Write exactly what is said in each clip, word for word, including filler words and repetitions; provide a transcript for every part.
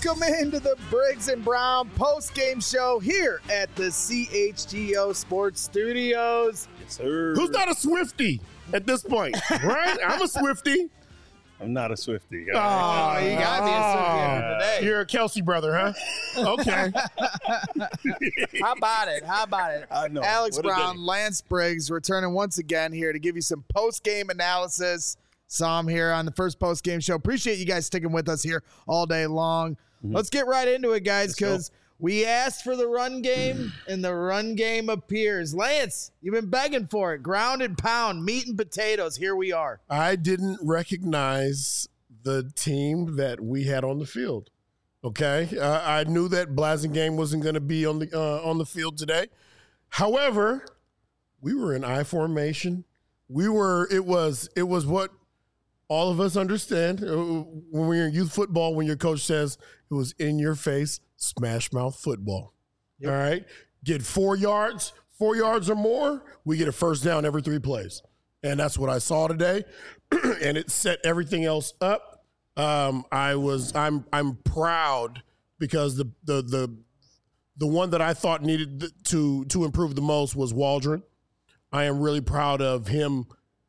Welcome into the Briggs and Brown post-game show here at the C H G O Sports Studios. Yes, sir. Who's not a Swiftie at this point, right? I'm a Swiftie. I'm not a Swiftie. Oh, you got to be a Swiftie today. You're a Kelsey brother, huh? Okay. How about it? How about it? I know. Alex What a Brown, day. Lance Briggs returning once again here to give you some post-game analysis. Saw him here on the first post-game show. Appreciate you guys sticking with us here all day long. Mm-hmm. Let's get right into it, guys, because we asked for the run game, and the run game appears. Lance, you've been begging for it. Ground and pound, meat and potatoes. Here we are. I didn't recognize the team that we had on the field. Okay, uh, I knew that Blasingame wasn't going to be on the uh, on the field today. However, we were in I formation. We were. It was. It was what all of us understand when we're in youth football. When your coach says it was in your face, smash mouth football. Yep. All right, get four yards, four yards or more, we get a first down every three plays, and that's what I saw today, and it set everything else up. Um, I was, I'm, I'm proud because the, the, the, the one that I thought needed to, to improve the most was Waldron. I am really proud of him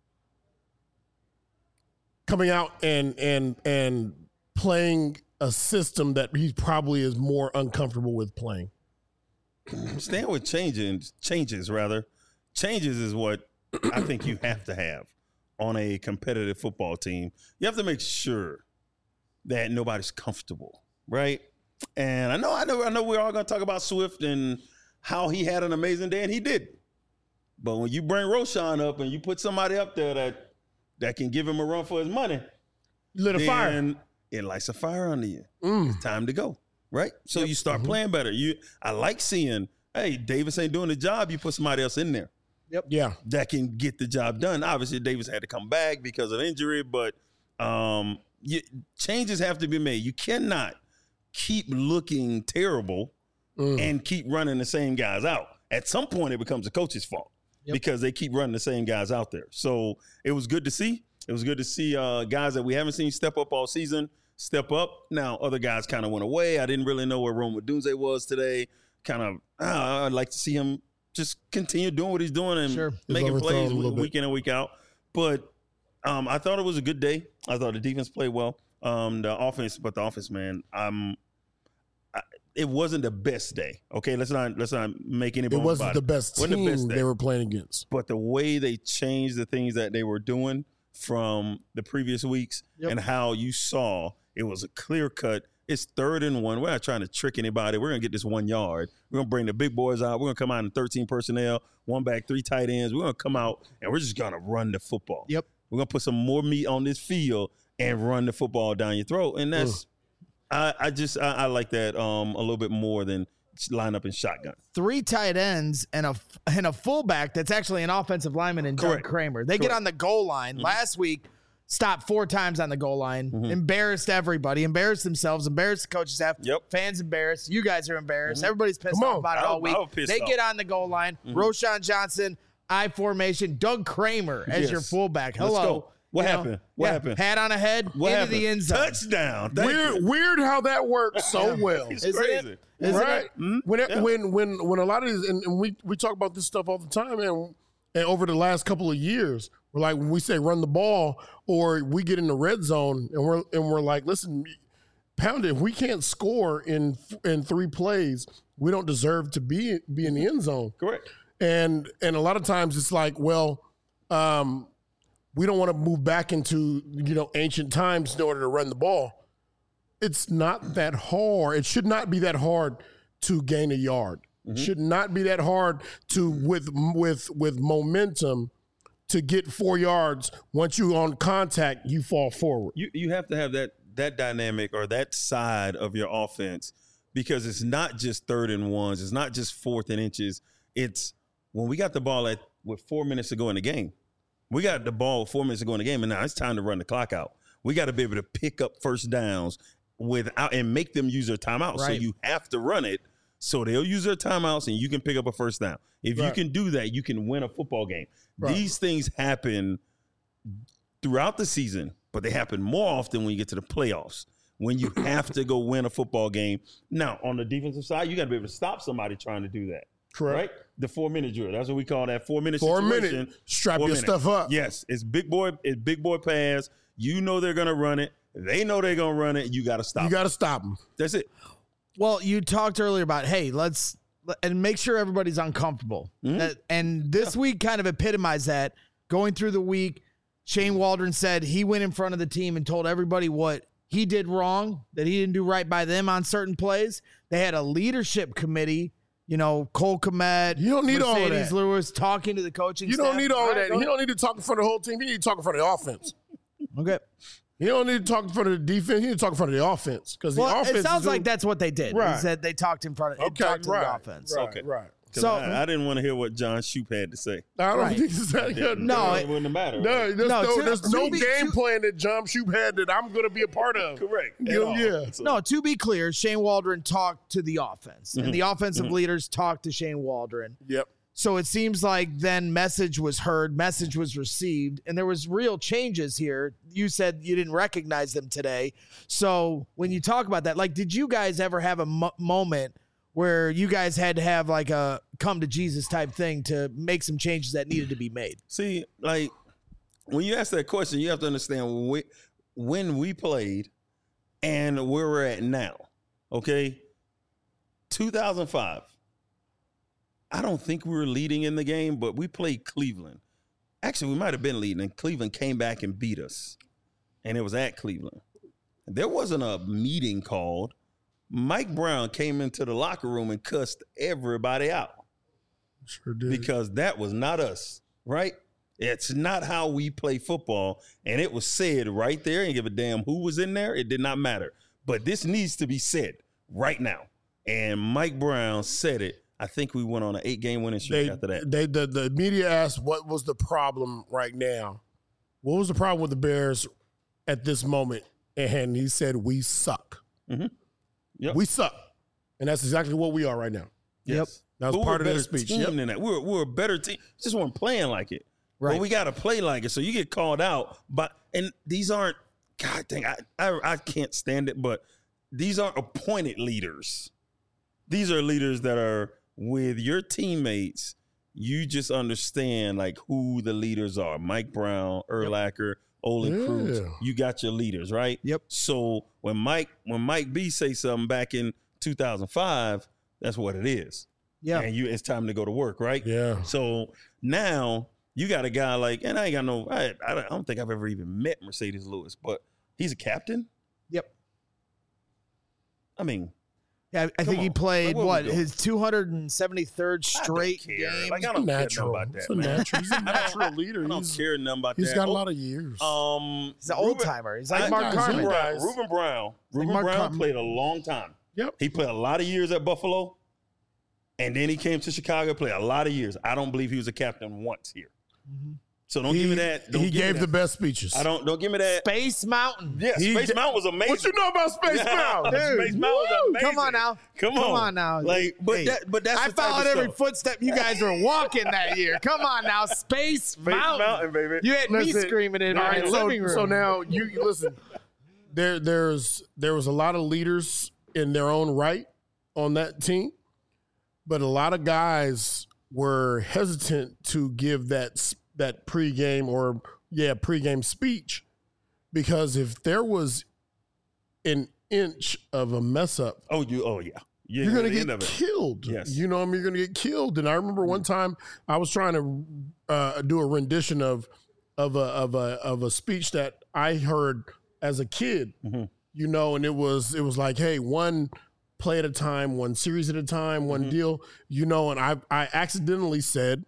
coming out and, and, and playing a system that he probably is more uncomfortable with playing. Staying with changes, changes rather, changes is what I think you have to have on a competitive football team. You have to make sure that nobody's comfortable, right? And I know, I know, I know we're all going to talk about Swift and how he had an amazing day, and he did. But when you bring Roschon up and you put somebody up there that that can give him a run for his money, lit a then fire. It lights a fire under you. Mm. It's time to go, right? So Yep. you start Mm-hmm. playing better. You, I like seeing, hey, Davis ain't doing the job. You put somebody else in there Yeah. that can get the job done. Obviously, Davis had to come back because of injury, but um, you, changes have to be made. You cannot keep looking terrible Mm. and keep running the same guys out. At some point, it becomes the coach's fault Yep. because they keep running the same guys out there. So it was good to see. It was good to see uh, guys that we haven't seen step up all season step up. Now, other guys kind of went away. I didn't really know where Rome Odunze was today. Kind of, uh, I'd like to see him just continue doing what he's doing and Sure. making overthrown plays a little week bit. in and week out. But um, I thought it was a good day. I thought the defense played well. Um, the offense, but the offense, man, um, I, it wasn't the best day. Okay, let's not let's not make any. It bones wasn't about the best Wasn't team the best day. they were playing against. But the way they changed the things that they were doing from the previous weeks Yep. and how you saw it was a clear cut. It's third and one. We're not trying to trick anybody. We're going to get this one yard. We're going to bring the big boys out. We're going to come out in thirteen personnel, one back, three tight ends. We're going to come out and we're just going to run the football. Yep. We're going to put some more meat on this field and run the football down your throat. And that's, I, I just, I, I like that um, a little bit more than line up in shotgun. Three tight ends and a and a fullback that's actually an offensive lineman in Doug Correct. Kramer. They get Correct. on the goal line. Mm-hmm. Last week, stopped four times on the goal line, Mhm. embarrassed everybody, embarrassed themselves, embarrassed the coaching staff. Yep. Fans embarrassed. You guys are embarrassed. Mhm. Everybody's pissed Come off on. about it I- all week. I was pissed They off. get on the goal line. Mhm. Roshan Johnson, I formation, Doug Kramer as Yes. your fullback. Let's Hello. go. What You know? happened? What Yeah, happened? Hat on a head, What into happened? the end zone. Touchdown. Thank Weird, you. weird how that works so well. It's Isn't it? crazy. Isn't right. it? Mhm. When, it, Yeah. when when when a lot of these, and, and we we talk about this stuff all the time, and and over the last couple of years, we're like when we say run the ball, or we get in the red zone, and we're and we're like, listen, Pound it. If we can't score in in three plays, we don't deserve to be be in the end zone. Correct. And and a lot of times it's like, well, um, we don't want to move back into you know ancient times in order to run the ball. It's not that hard. It should not be that hard to gain a yard. It should not be that hard to with with with momentum to get four yards. Once you on contact, you fall forward. You you have to have that that dynamic or that side of your offense because it's not just third and ones. It's not just fourth and inches. It's when we got the ball at with four minutes to go in the game. We got the ball with four minutes to go in the game, and now it's time to run the clock out. We got to be able to pick up first downs without and make them use their timeout. So Right. you have to run it. So they'll use their timeouts and you can pick up a first down. If you Right. can do that, you can win a football game. Right. These things happen throughout the season, but they happen more often when you get to the playoffs. when you have to go win a football game. Now, on the defensive side, you got to be able to stop somebody trying to do that. Correct. Right? The four-minute drill. That's what we call that four-minute Four situation. minute. Strap Four your minute. stuff up. Yes. It's big boy. It's big boy pass. You know they're going to run it. They know they're going to run it. You got to stop You got to stop them. That's it. Well, you talked earlier about, hey, let's and make sure everybody's uncomfortable. Mm-hmm. That, and this yeah. week kind of epitomized that. Going through the week, Shane Waldron said he went in front of the team and told everybody what he did wrong, that he didn't do right by them on certain plays. They had a leadership committee, you know, Cole Kmet, You don't need Mercedes all of that. Lewis talking to the coaching You staff. don't need all of right, that. You don't need to talk in front of the whole team. You need to talk in front of the offense. Okay. You don't need to talk in front of the defense. You need to talk in front of the offense. Because the Well, offense it sounds is like doing, that's what they did. Right. Is that they talked in front of Okay, talked to right, the offense. Right, Okay. right. So So- I, I didn't want to hear what John Shoop had to say. I don't Right. think it's that good. No, it it- wouldn't matter. No, there's No, no, to- there's to no be- game to- plan that John Shoop had that I'm going to be a part of. Correct. At You- all. yeah. So- No, to be clear, Shane Waldron talked to the offense, and the offensive leaders talked to Shane Waldron. Yep. So it seems like then message was heard, message was received, and there was real changes here. You said you didn't recognize them today. So when you talk about that, like, did you guys ever have a mo- moment where you guys had to have like a come to Jesus type thing to make some changes that needed to be made? See, like, when you ask that question, you have to understand when we, when we played and where we're at now, okay? two thousand five. I don't think we were leading in the game, but we played Cleveland. Actually, we might have been leading, and Cleveland came back and beat us. And it was at Cleveland. There wasn't a meeting called. Mike Brown came into the locker room and cussed everybody out Sure did. because that was not us, right? It's not how we play football. And it was said right there, and give a damn who was in there. It did not matter. But this needs to be said right now. And Mike Brown said it. I think we went on an eight-game winning streak they, after that. They the, the media asked what was the problem right now. What was the problem with the Bears at this moment? And he said, we suck. Mm-hmm. Yep. We suck. And that's exactly what we are right now. Yes. That was But part of we're a their better speech. team Yep. than that. We're, we're a better team. Just weren't playing like it. Right. But we got to play like it. So you get called out. But and these aren't, God dang, I, I, I can't stand it, but these aren't appointed leaders. These are leaders that are with your teammates. You just understand like who the leaders are. Mike Brown, Urlacher, Olin Yeah. Cruz. You got your leaders, right? Yep. So when Mike when Mike B say something back in two thousand five, that's what it is. Yeah. And you it's time to go to work, right? Yeah. So now you got a guy like, and I ain't got no, I, I don't- I don't think I've ever even met Mercedes Lewis, but he's a captain. Yep. I mean, Yeah, I think he on. played Like, what what, we doing? his two hundred seventy-third I don't straight care. game. Like, I don't care Natural. nothing about It's that. a man. natural. He's a natural leader. I don't He's, care nothing about he's that. got a Oh, lot of years. Um, He's an old timer. He's like I- Mark guys, Carmen. Ruben Brown, Guys. Ruben Brown. Ruben Mark Brown Carmen. played a long time. Yep. He played a lot of years at Buffalo, and then he came to Chicago, played a lot of years. I don't believe he was a captain once here. Mm-hmm. So don't he, give me that. Don't he give me gave the that. best speeches. I don't. Don't give me that. Space Mountain. Yeah, He Space ga- Mountain was amazing. What you know about Space Mountain? Dude, Space Mountain was woo! amazing. Come on now. Come Come on. on now. Like, but Hey, that, but that's I the type followed of every stuff. footstep you guys were walking that year. Come on now, Space, Space Mountain. Mountain, baby. You had me Listen, screaming in all my right, so, living room. So now you you listen. There there's there was a lot of leaders in their own right on that team, but a lot of guys were hesitant to give that s- that pregame or yeah pregame speech because if there was an inch of a mess up, Oh, you. Oh, yeah. You you're ain't gonna at the end get of it. killed. Yes. You know what I mean? You're gonna get killed. And I remember one time I was trying to uh, do a rendition of of a of a of a speech that I heard as a kid. Mhm. You know, and it was it was like, hey, one play at a time, one series at a time, one Mhm. deal. You know, and I I accidentally said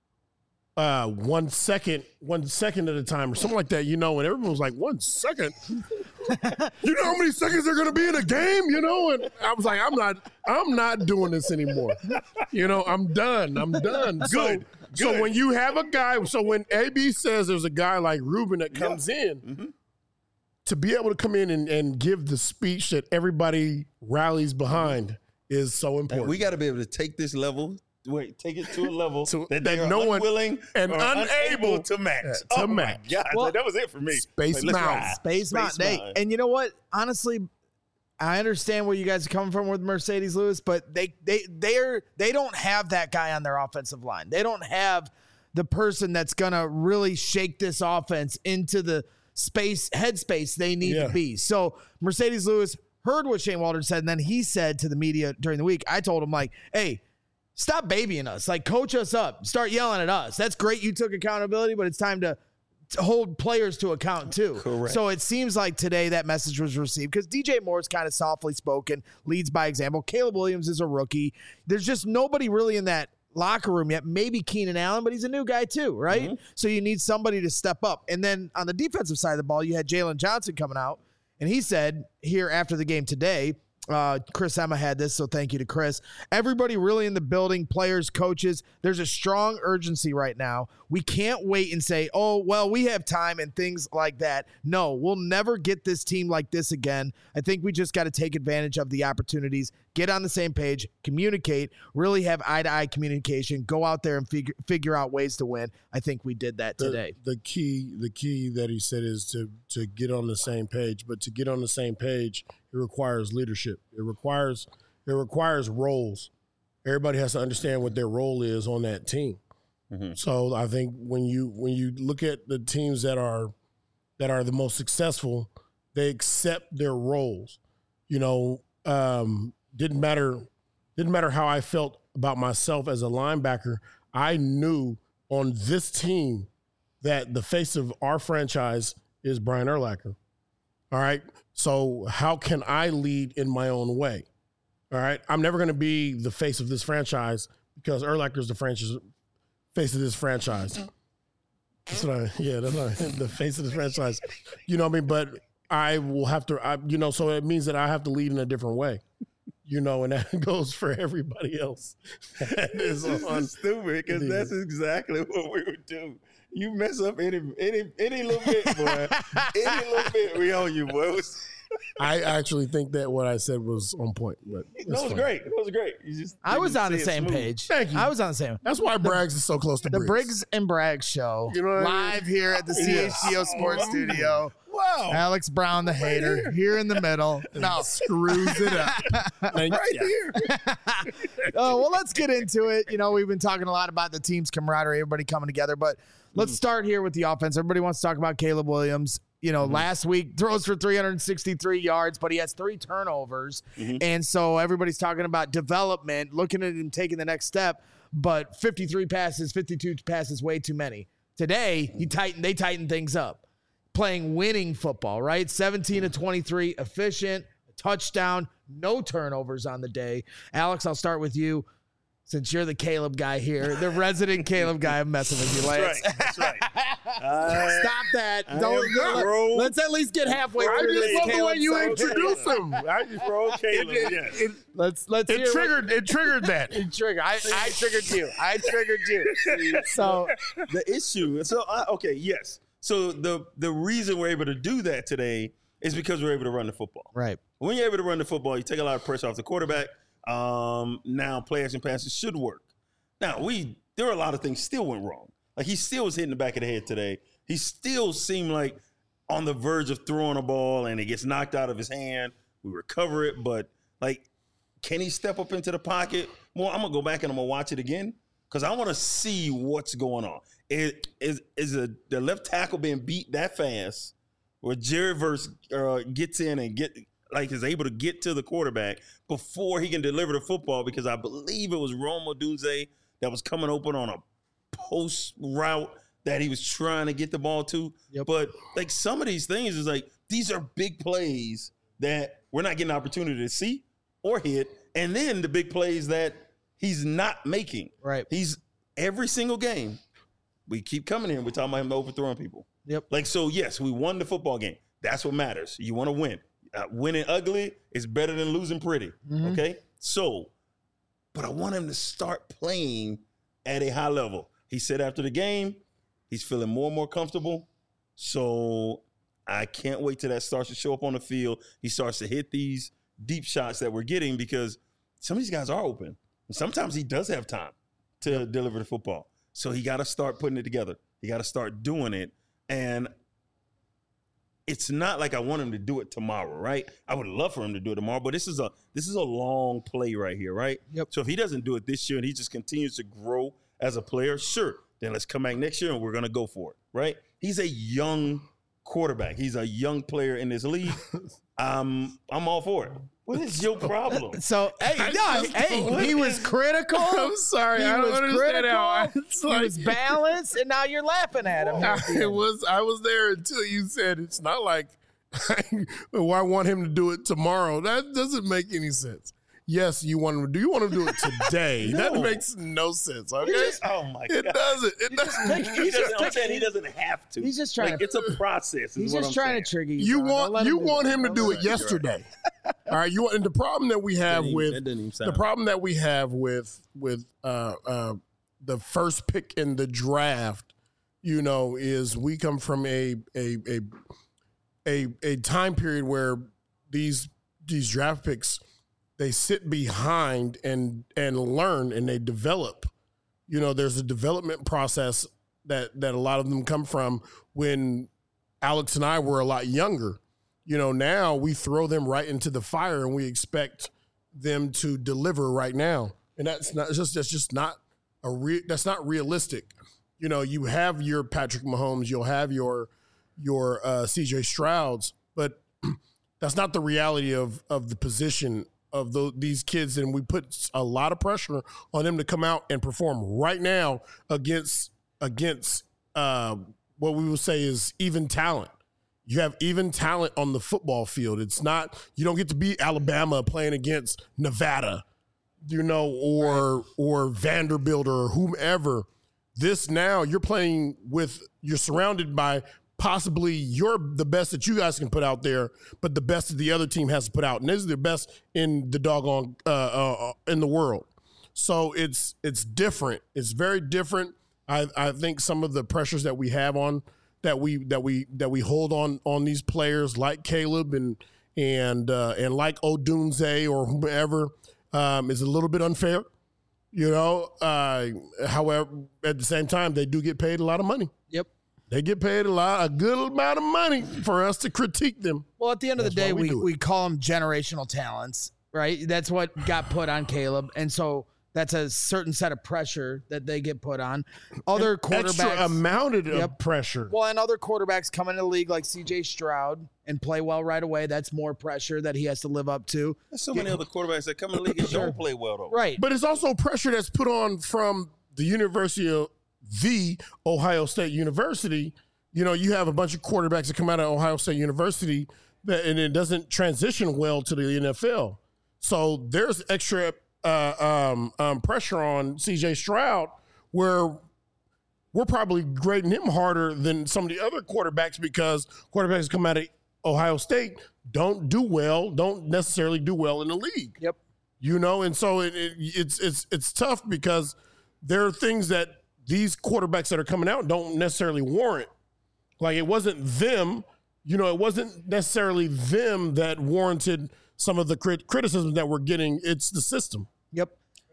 uh one second one second at a time or something like that, you know, and everyone was like, one second. You know how many seconds they're gonna be in a game, you know? And I was like, I'm not I'm not doing this anymore. You know, I'm done. I'm done. So Good. so Good. when you have a guy, so when A B says there's a guy like Ruben that comes in, Mhm. to be able to come in and, and give the speech that everybody rallies behind is so And important. we got to be able to take this level, wait, take it to a level To- that, that they are no one- unwilling and or unable to match. to oh match. My God, Well, that was it for me. Space let's Mountain. ride. Space, Mountain. Hey, Mountain. and you know what? Honestly, I understand where you guys are coming from with Mercedes Lewis, but they they they're they don't have that guy on their offensive line. They don't have the person that's gonna really shake this offense into the space headspace they need Yeah. to be. So Mercedes Lewis heard what Shane Waldron said, and then he said to the media during the week, I told him, like, hey, stop babying us. Like, coach us up. Start yelling at us. That's great you took accountability, but it's time to to hold players to account too. Correct. So it seems like today that message was received because D J Moore's kind of softly spoken, leads by example. Caleb Williams is a rookie. There's just nobody really in that locker room yet. Maybe Keenan Allen, but he's a new guy too, right? Mm-hmm. So you need somebody to step up. And then on the defensive side of the ball, you had Jalen Johnson coming out, and he said here after the game today, Uh, Chris Emma had this, so thank you to Chris. Everybody really in the building, players, coaches, there's a strong urgency right now. We can't wait and say, oh, well, we have time and things like that. No, we'll never get this team like this again. I think we just got to take advantage of the opportunities, get on the same page, communicate, really have eye-to-eye communication, go out there and figure figure out ways to win. I think we did that The, today. the key, the key that he said is to to get on the same page. But to get on the same page, it requires leadership. It requires it requires roles. Everybody has to understand what their role is on that team. Mm-hmm. So I think when you when you look at the teams that are that are the most successful, they accept their roles. You know, um, didn't matter didn't matter how I felt about myself as a linebacker. I knew on this team that the face of our franchise is Brian Urlacher. All right. So how can I lead in my own way? All right. I'm never going to be the face of this franchise because Urlacher is the franchise face of this franchise. That's what I, yeah, that's what I, the face of this franchise. You know what I mean? But I will have to, I, you know, so it means that I have to lead in a different way. You know, and that goes for everybody else. That is on stupid because that's exactly what we would do. You mess up any any any little bit, boy. Any little bit, we own you, boy. It was, I actually think that what I said was on point. But no, it was fine. great. It was great. You just I was on the say it same smooth. page. Thank you. I was on the same. That's why Braggs is so close to The Briggs. Briggs and Braggs show, You know what I mean? live here at the C H G O Sports Studio. Wow. Alex Brown, the hater, here in the middle. No, Screws it up. Thank Right you. here. oh well, let's get into it. You know, we've been talking a lot about the team's camaraderie, everybody coming together, but let's start here with the offense. Everybody wants to talk about Caleb Williams. You know, mm-hmm. last week throws for three hundred sixty-three yards, but he has three turnovers. Mm-hmm. And so everybody's talking about development, looking at him taking the next step, but fifty-three passes, fifty-two passes, way too many. Today, he tightened, they tightened things up. Playing winning football, right? seventeen to twenty-three, efficient, touchdown, no turnovers on the day. Alex, I'll start with you. Since you're the Caleb guy here, the resident Caleb guy, I'm messing with you, Lance. That's right. That's right. Uh, Stop that. I Don't, am let, pro- let's at least get halfway I through just this. love the Caleb way you side. introduce him. I just roll Caleb. It, yes. it, Let's let's it hear triggered. It triggered that. What, trigger. I, I triggered you. I triggered you. So the issue. So uh, okay, yes. So the the reason we're able to do that today is because we're able to run the football. right. When you're able to run the football, you take a lot of pressure off the quarterback. Um, now play action passes should work. Now we there were a lot of things still went wrong. Like he still was hitting the back of the head today. He still seemed like on the verge of throwing a ball and it gets knocked out of his hand. We recover it, but like, can he step up into the pocket more? I'm gonna go back and I'm gonna watch it again because I want to see what's going on. Is is is a the left tackle being beat that fast, where Jerry Verse uh, gets in and get like is able to get to the quarterback before he can deliver the football? Because I believe it was Rome Odunze that was coming open on a post route that he was trying to get the ball to. Yep. But like some of these things is like these are big plays that we're not getting an opportunity to see or hit, and then the big plays that he's not making. Right. He's every single game. We keep coming in. We're talking about him overthrowing people. Yep. Like, so, yes, we won the football game. That's what matters. You want to win. Uh, winning ugly is better than losing pretty. Mm-hmm. Okay? So, but I want him to start playing at a high level. He said after the game, he's feeling more and more comfortable. So I can't wait till that starts to show up on the field. He starts to hit these deep shots that we're getting because some of these guys are open. And sometimes he does have time to yep. deliver the football. So he got to start putting it together. He got to start doing it. And it's not like I want him to do it tomorrow, right? I would love for him to do it tomorrow, but this is a this is a long play right here, right? Yep. So if he doesn't do it this year and he just continues to grow as a player, sure, then let's come back next year and we're going to go for it, right? He's a young quarterback. He's a young player in this league. um, I'm all for it. What is your problem? So, hey, no, hey, he was critical. I'm sorry, He I don't was understand critical. how. It's He like, was balanced, and now you're laughing at him. I, it was. I was there until you said it's not like. Well, I want him to do it tomorrow. That doesn't make any sense. Yes, you want him to do. You want him to do it today. No. That makes no sense. Okay, Just- oh my it god, doesn't. It doesn't. he doesn't. I'm saying he doesn't have to. He's just trying Like, to- it's a process. He's is what just I'm trying saying. to trigger you. You John. Don't want let you do want that. him to Don't do let it yesterday. All right, you want, and the problem that we have That didn't- with that didn't even the sound- problem that we have with with uh, uh, the first pick in the draft, you know, is we come from a a a a, a time period where these these draft picks, they sit behind and and learn and they develop. You know, there's a development process that that a lot of them come from when Alex and I were a lot younger. You know, now we throw them right into the fire and we expect them to deliver right now. And that's not just that's just not a re, that's not realistic. You know, you have your Patrick Mahomes, you'll have your your uh, C J Strouds, but that's not the reality of of the position of the, these kids. And we put a lot of pressure on them to come out and perform right now against against uh, what we will say is even talent. You have even talent on the football field. It's not, you don't get to be Alabama playing against Nevada, you know, or right. or Vanderbilt or whomever. This now you're playing with, you're surrounded by possibly you're the best that you guys can put out there, but the best that the other team has to put out. And this is the best in the doggone, uh, uh, in the world. So it's, it's different. It's very different. I, I think some of the pressures that we have on, that we that we that we hold on on these players like Caleb and and uh, and like Odunze or whomever um, is a little bit unfair, you know. Uh, however, at the same time, they do get paid a lot of money. Yep, they get paid a lot, a good amount of money for us to critique them. Well, at the end of That's the day, why we we do it. we call them generational talents, right? That's what got put on Caleb, and so that's a certain set of pressure that they get put on. Other quarterbacks, Extra amounted of Yep. pressure. well, and other quarterbacks come into the league like C J Stroud and play well right away. That's more pressure that he has to live up to. There's so many other quarterbacks that come in the league and Sure. don't play well though. Right. But it's also pressure that's put on from the University of the Ohio State University. You know, you have a bunch of quarterbacks that come out of Ohio State University that, and it doesn't transition well to the N F L. So there's extra uh, um, um, pressure on C J Stroud where we're probably grading him harder than some of the other quarterbacks because quarterbacks come out of Ohio State don't do well, don't necessarily do well in the league. Yep. You know, and so it, it, it's it's it's tough because there are things that these quarterbacks that are coming out don't necessarily warrant. Like it wasn't them, you know, it wasn't necessarily them that warranted some of the crit- criticism that we're getting. It's the system. Yep.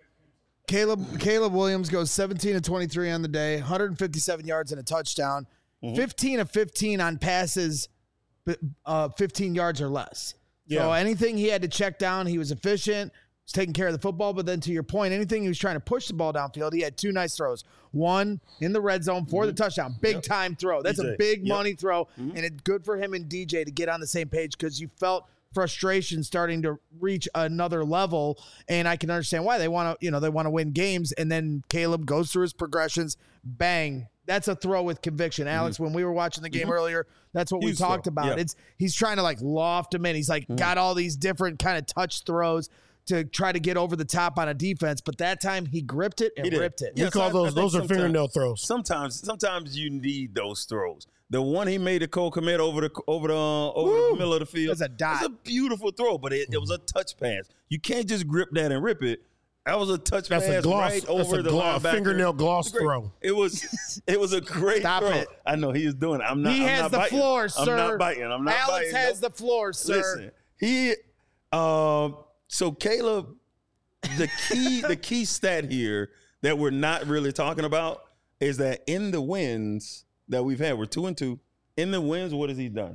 Caleb Caleb Williams goes seventeen of twenty-three on the day, one hundred fifty-seven yards and a touchdown, mm-hmm. fifteen of fifteen on passes, uh, fifteen yards or less. Yeah. So anything he had to check down, he was efficient, was taking care of the football. But then to your point, anything he was trying to push the ball downfield, he had two nice throws. One in the red zone for mm-hmm. the touchdown. Big yep. time throw. That's D J. A big yep. money throw. Mm-hmm. And it's good for him and D J to get on the same page because you felt frustration starting to reach another level, and I can understand why they want to, you know, they want to win games. And then Caleb goes through his progressions, bang, that's a throw with conviction. Alex, mm-hmm. when we were watching the game mm-hmm. earlier, that's what Huge we talked throw. about. Yeah. It's he's trying to like loft him in. He's like mm-hmm. got all these different kind of touch throws to try to get over the top on a defense, but that time he gripped it and ripped it. We yes, call those those are fingernail throws. Sometimes, sometimes you need those throws. The one he made to Cole Kmet over the over the uh, over Woo! the middle of the field. That's a dot. It's a beautiful throw, but it, it was a touch pass. You can't just grip that and rip it. That was a touch That's pass a gloss, right that's over a the gloss, linebacker. Fingernail gloss it throw. It was it was a great Stop throw. it. I know he is doing it. I'm not. He I'm has not the biting. floor, sir. I'm not biting. I'm not Alex biting. has no. the floor, sir. Listen, he. Um. So Caleb, the key the key stat here that we're not really talking about is that in the wins that we've had, we're two and two. In the wins, what has he done?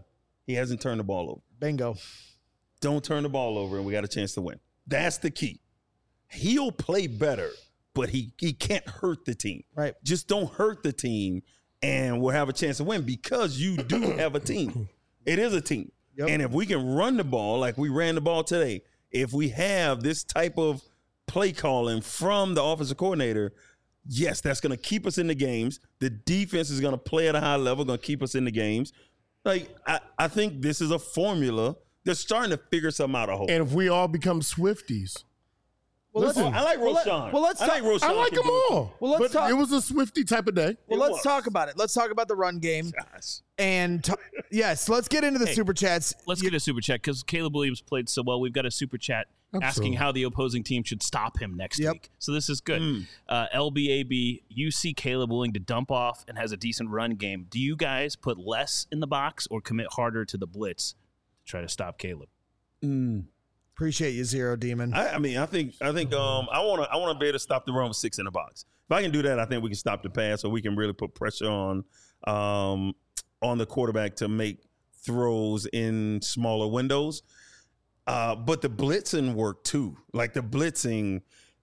he hasn't turned the ball over. Bingo. Don't turn the ball over, and we got a chance to win. That's the key. He'll play better, but he he can't hurt the team. Right. Just don't hurt the team, and we'll have a chance to win because you do have a team. It is a team. Yep. And if we can run the ball like we ran the ball today, if we have this type of play calling from the offensive coordinator, yes, that's going to keep us in the games. The defense is going to play at a high level, going to keep us in the games. Like, I, I think this is a formula. They're starting to figure something out, I hope. And if we all become Swifties. Well, Listen, I like well, Roshan. let, well, let's I talk, like Roshan. I like them all. Well, let's but talk. It was a Swifty type of day. Well, It let's was. talk about it. Let's talk about the run game. Gosh. And t- yes, let's get into the Hey, super chats. Let's get a super chat because Caleb Williams played so well. We've got a super chat Absolutely. asking how the opposing team should stop him next Yep. week. So this is good. Mm. Uh, L B A B, you see Caleb willing to dump off and has a decent run game. Do you guys put less in the box or commit harder to the blitz to try to stop Caleb? Mm. Appreciate you, Zero Demon. I, I mean, I think I think um, I want to I want to be able to stop the run with six in the box. If I can do that, I think we can stop the pass, or we can really put pressure on um, on the quarterback to make throws in smaller windows. Uh, but the blitzing worked too. Like the blitzing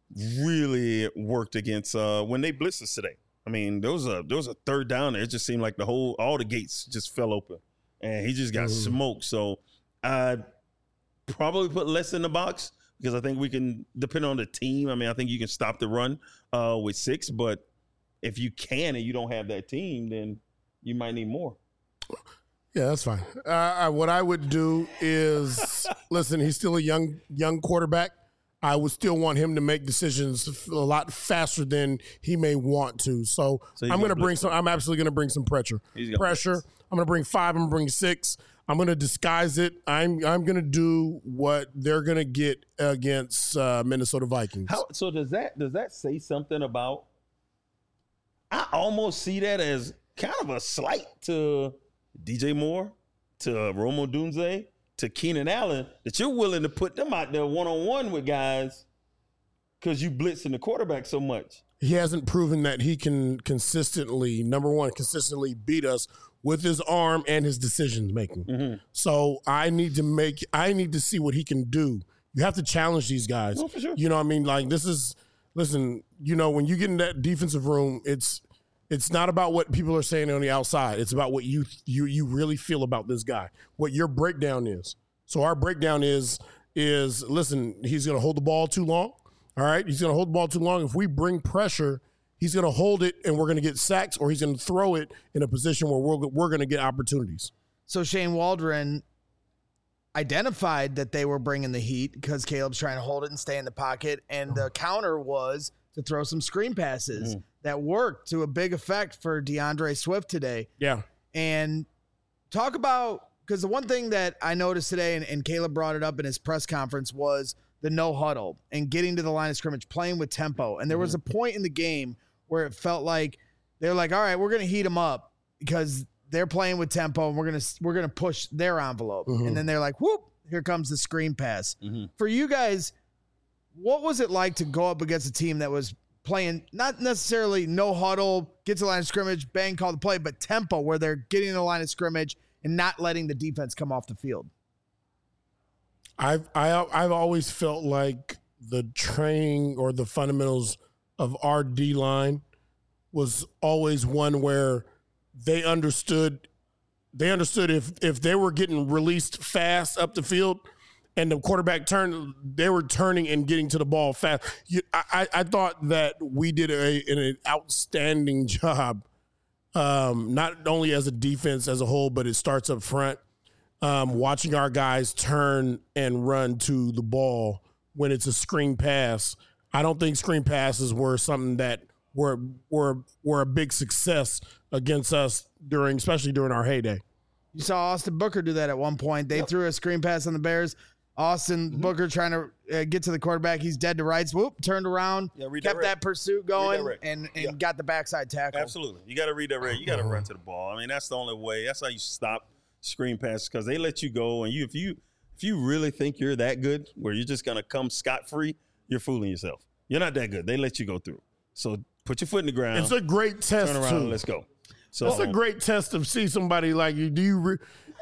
really worked against uh, when they blitzed us today. I mean, there was a there was a third down there. It just seemed like the whole all the gates just fell open, and he just got Mm. smoked. So I probably put less in the box because I think we can, depending on the team. I mean, I think you can stop the run uh, with six, but if you can and you don't have that team, then you might need more. Yeah, that's fine. Uh, I, what I would do is, listen, he's still a young young quarterback. I would still want him to make decisions a lot faster than he may want to. So, So he's I'm going to gonna bring blitz some. I'm absolutely going to bring some pressure. He's gonna Pressure. blitz. I'm going to bring five. I'm going to bring six. I'm going to disguise it. I'm I'm going to do what they're going to get against uh, Minnesota Vikings. How, so does that does that say something about? I almost see that as kind of a slight to D J Moore, to Romo Dunze, to Keenan Allen, that you're willing to put them out there one on one with guys because you blitzing the quarterback so much. He hasn't proven that he can consistently, number one, consistently beat us with his arm and his decision making. Mm-hmm. So I need to make, I need to see what he can do. You have to challenge these guys. No, for sure. You know what I mean? Like this is, listen, you know, when you get in that defensive room, it's, it's not about what people are saying on the outside. It's about what you, you, you really feel about this guy, what your breakdown is. So our breakdown is, is listen, he's going to hold the ball too long. All right. He's going to hold the ball too long. If we bring pressure, he's going to hold it and we're going to get sacks, or he's going to throw it in a position where we're, we're going to get opportunities. So Shane Waldron identified that they were bringing the heat because Caleb's trying to hold it and stay in the pocket. And the counter was to throw some screen passes Mm. that worked to a big effect for DeAndre Swift today. Yeah. And talk about, because the one thing that I noticed today, and, and Caleb brought it up in his press conference, was the no huddle and getting to the line of scrimmage, playing with tempo. And there was a point in the game where it felt like they're like, all right, we're going to heat them up because they're playing with tempo and we're going to, we're going to push their envelope. Mhm. And then they're like, whoop, here comes the screen pass. Mm-hmm. For you guys, what was it like to go up against a team that was playing not necessarily no huddle, get to the line of scrimmage, bang, call the play, but tempo where they're getting to the line of scrimmage and not letting the defense come off the field? I've, I, I've always felt like the training or the fundamentals of our D line was always one where they understood, they understood if, if they were getting released fast up the field, and the quarterback turned, they were turning and getting to the ball fast. You, I, I thought that we did a, an outstanding job, um, not only as a defense as a whole, but it starts up front, um, watching our guys turn and run to the ball when it's a screen pass. I don't think screen passes were something that were were were a big success against us during, especially during our heyday. You saw Austin Booker do that at one point. They Yep. threw a screen pass on the Bears. Austin Mm-hmm. Booker trying to uh, get to the quarterback. He's dead to rights. Whoop, turned around, Yeah, redirect. kept that pursuit going, Redirect. and, and Yeah. got the backside tackle. Absolutely. You got to read that red. You got to run to the ball. I mean, that's the only way. That's how you stop screen passes because they let you go. And you, if you if you really think you're that good, where you're just going to come scot-free, you're fooling yourself. You're not that good. They let you go through. So put your foot in the ground. It's a great test turn around too. and let's go. So It's a great test to see somebody like you. Do you? Re-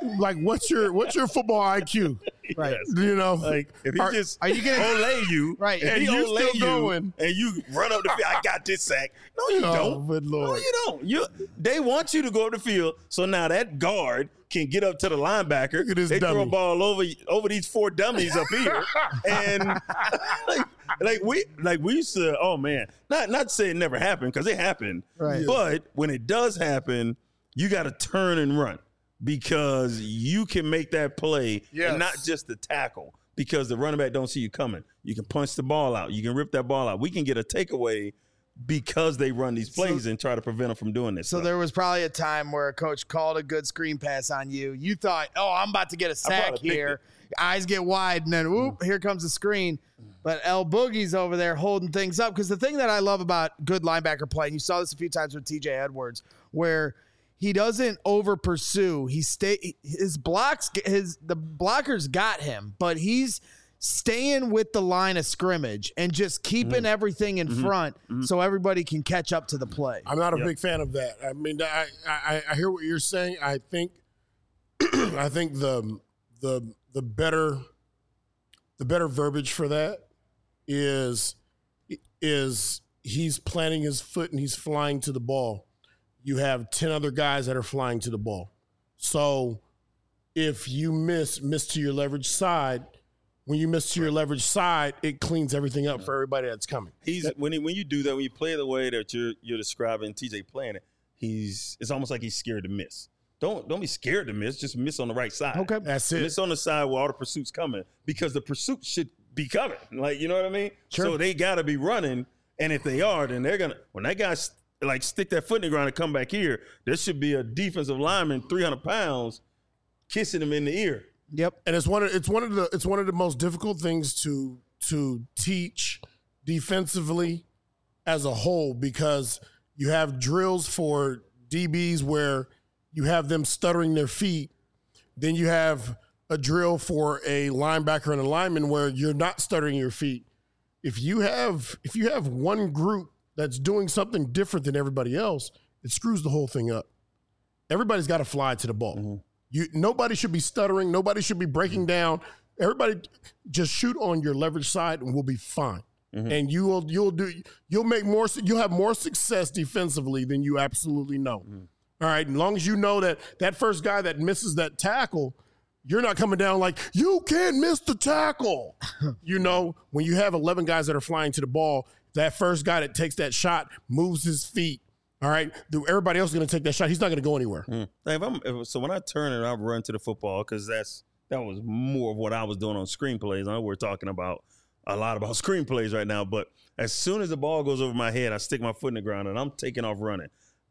like what's your what's your football I Q? Right. Yes. You know, Like if he Are- just are you gonna- olay you, Right. If And he you're olay still you going. and you run up the field, I got this sack. No, you Oh, don't. good No, Lord. you don't. You they want you to go up the field, so now that guard can get up to the linebacker. Look at this they throw dummy. a ball over over these four dummies up here, and like, like we like we used to. Oh man, not not to say it never happened because it happened. Right. But when it does happen, you got to turn and run because you can make that play Yes. and not just the tackle because the running back don't see you coming. You can punch the ball out. You can rip that ball out. We can get a takeaway because they run these plays So- and try to prevent them from doing this. So stuff. there was probably a time where a coach called a good screen pass on you. You thought, oh, I'm about to get a sack probably picked here. Eyes get wide, and then whoop, here comes the screen. But El Boogie's over there holding things up. Because the thing that I love about good linebacker play, and you saw this a few times with T J Edwards, where he doesn't over pursue. He stay his blocks, his the blockers got him, but he's staying with the line of scrimmage and just keeping everything in front so everybody can catch up to the play. I'm not a Yep. big fan of that. I mean, I, I I hear what you're saying. I think I think the the the better the better verbiage for that is is he's planting his foot and he's flying to the ball. You have ten other guys that are flying to the ball. So if you miss miss to your leverage side, when you miss to your leverage side, it cleans everything up for everybody that's coming. He's when he, when you do that, when you play the way that you're you're describing T J playing it, he's it's almost like he's scared to miss. Don't don't be scared to miss. Just miss on the right side. Okay. That's it. Miss on the side where all the pursuit's coming because the pursuit should be coming. Like you know what I mean? Sure. So they got to be running, and if they are, then they're gonna when that guy like stick that foot in the ground and come back here, there should be a defensive lineman, three hundred pounds, kissing him in the ear. Yep. And it's one of it's one of the it's one of the most difficult things to to teach defensively as a whole because you have drills for D Bs where you have them stuttering their feet. Then you have a drill for a linebacker and a lineman where you're not stuttering your feet. If you have if you have one group that's doing something different than everybody else, it screws the whole thing up. Everybody's got to fly to the ball. Mm-hmm. You nobody should be stuttering. Nobody should be breaking down. Everybody just shoot on your leverage side and we'll be fine. Mm-hmm. And you will you'll do you'll make more you'll have more success defensively than you absolutely know. Mm-hmm. All right, as long as you know that that first guy that misses that tackle, you're not coming down like you can't miss the tackle. You know, when you have eleven guys that are flying to the ball, that first guy that takes that shot moves his feet. All right, everybody else is going to take that shot. He's not going to go anywhere. Mm. Like if I'm, if, so when I turn and I run to the football, because that's that was more of what I was doing on screenplays. I know we're talking about a lot about screenplays right now, but as soon as the ball goes over my head, I stick my foot in the ground and I'm taking off running.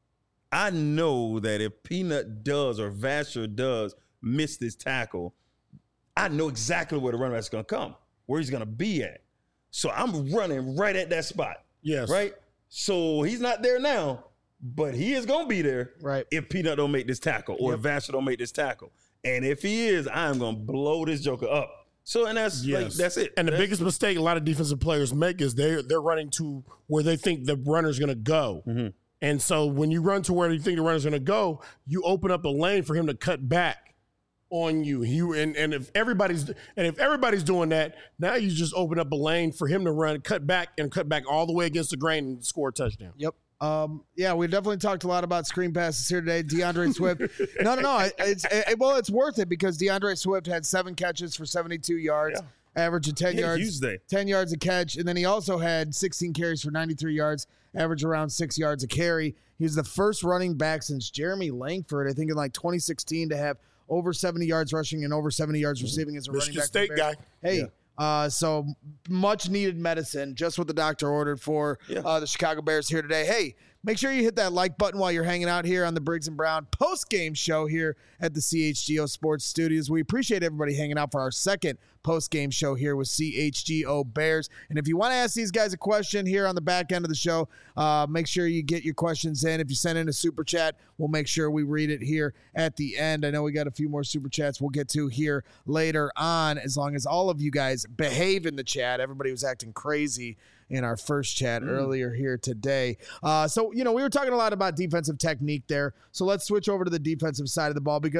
I know that if Peanut does or Vasher does miss this tackle, I know exactly where the running back's going to come, where he's going to be at. So I'm running right at that spot. Yes. Right? So he's not there now, but he is going to be there Right. if Peanut don't make this tackle or Yep. if Vasher don't make this tackle. And if he is, I'm going to blow this joker up. So, and that's like, Yes. that's it. And the That's- biggest mistake a lot of defensive players make is they're they're running to where they think the runner's going to go. Mm-hmm. And so when you run to where you think the runner's going to go, you open up a lane for him to cut back on you. You and, and if everybody's and if everybody's doing that, now you just open up a lane for him to run, cut back and cut back all the way against the grain and score a touchdown. Yep. Um, yeah, we definitely talked a lot about screen passes here today. DeAndre Swift. No, no, no. It's it, well, it's worth it because DeAndre Swift had seven catches for seventy-two yards, average of ten He had a yards, huge day. ten yards a catch, and then he also had sixteen carries for ninety-three yards, average around six yards a carry. He was the first running back since Jeremy Langford, I think, in like twenty sixteen, to have over seventy yards rushing and over seventy yards receiving as a running Michigan back. State for the Bears. guy. Hey. Yeah. Uh, so much needed medicine, just what the doctor ordered for Yeah. uh, the Chicago Bears here today. Hey, make sure you hit that like button while you're hanging out here on the Briggs and Brown post-game show here at the C H G O Sports Studios. We appreciate everybody hanging out for our second post-game show here with C H G O Bears. And if you want to ask these guys a question here on the back end of the show, uh, make sure you get your questions in. If you send in a super chat, we'll make sure we read it here at the end. I know we got a few more super chats we'll get to here later on, as long as all of you guys behave in the chat. Everybody was acting crazy in our first chat mm. earlier here today. Uh, so, you know, we were talking a lot about defensive technique there. So let's switch over to the defensive side of the ball because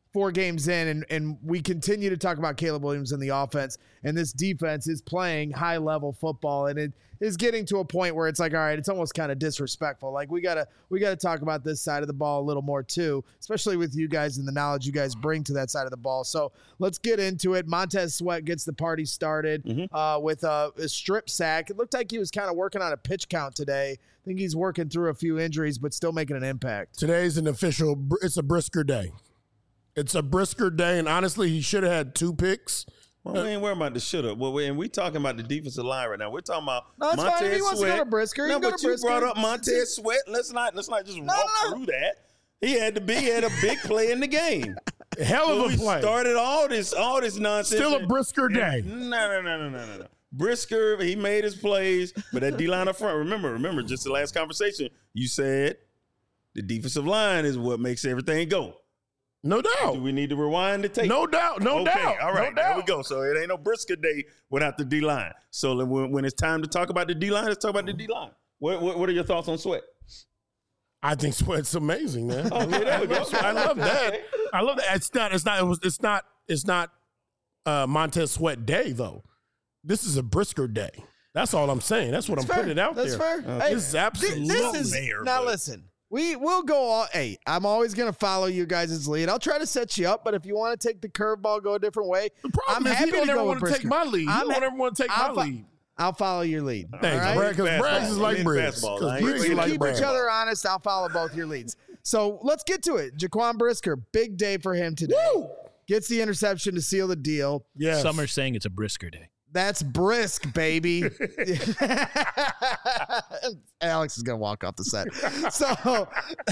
four games in, and, and we continue to talk about Caleb Williams and the offense, and this defense is playing high-level football, and it is getting to a point where it's like, all right, it's almost kind of disrespectful. Like, we gotta we gotta talk about this side of the ball a little more too, especially with you guys and the knowledge you guys bring to that side of the ball. So let's get into it. Montez Sweat gets the party started mm-hmm. uh, with a, a strip sack. It looked like he was kind of working on a pitch count today. I think he's working through a few injuries, but still making an impact. Today's an official, it's a Brisker day. It's a Brisker day, and honestly, he should have had two picks. Well, we ain't worrying about the should have. Well, we, and we talking about the defensive line right now. We're talking about no, Montez fine. He wants Sweat. to go to Brisker. He no, go but to you Brisker. brought up Montez Sweat. Let's not let's not just no, walk no. through that. He had to be he had a big play in the game. Hell of so a we play. Started all this all this nonsense. Still a Brisker day. No, no, no, no, no, no, no. Brisker, he made his plays, but that D line up front. Remember, remember, just the last conversation, you said the defensive line is what makes everything go. No doubt. Do we need to rewind the tape? No doubt. No okay, doubt. All right, no doubt. there we go. So it ain't no Brisker day without the D line. So when, when it's time to talk about the D line, let's talk about the D line. What, what what are your thoughts on Sweat? I think Sweat's amazing, man. Okay, there we go. I love that. I love that. It's not. It's not. It was. It's not. It's not. Uh, Montez Sweat day though. This is a Brisker day. That's all I'm saying. That's what That's I'm fair. putting it out That's there. fair. Okay. Hey, this is absolutely this is mayor, now. but- Listen, we will go all. Hey, I'm always going to follow you guys' lead. I'll try to set you up, but if you want to take the curveball, go a different way. The problem I'm is happy he don't to ever go want with to take Brisker. my lead. He I'm don't ha- ever want to take I'll my fo- lead. I'll follow your lead. Thanks, all right? Brad, because Fastball. Braggs is like In Briggs. fastball. 'Cause I ain't Briggs You is really like keep Braggs. each other honest. I'll follow both your leads. So let's get to it. Jaquan Brisker, big day for him today. Woo! Gets the interception to seal the deal. Yes. Some are saying it's a Brisker day. That's brisk, baby. Alex is going to walk off the set. So,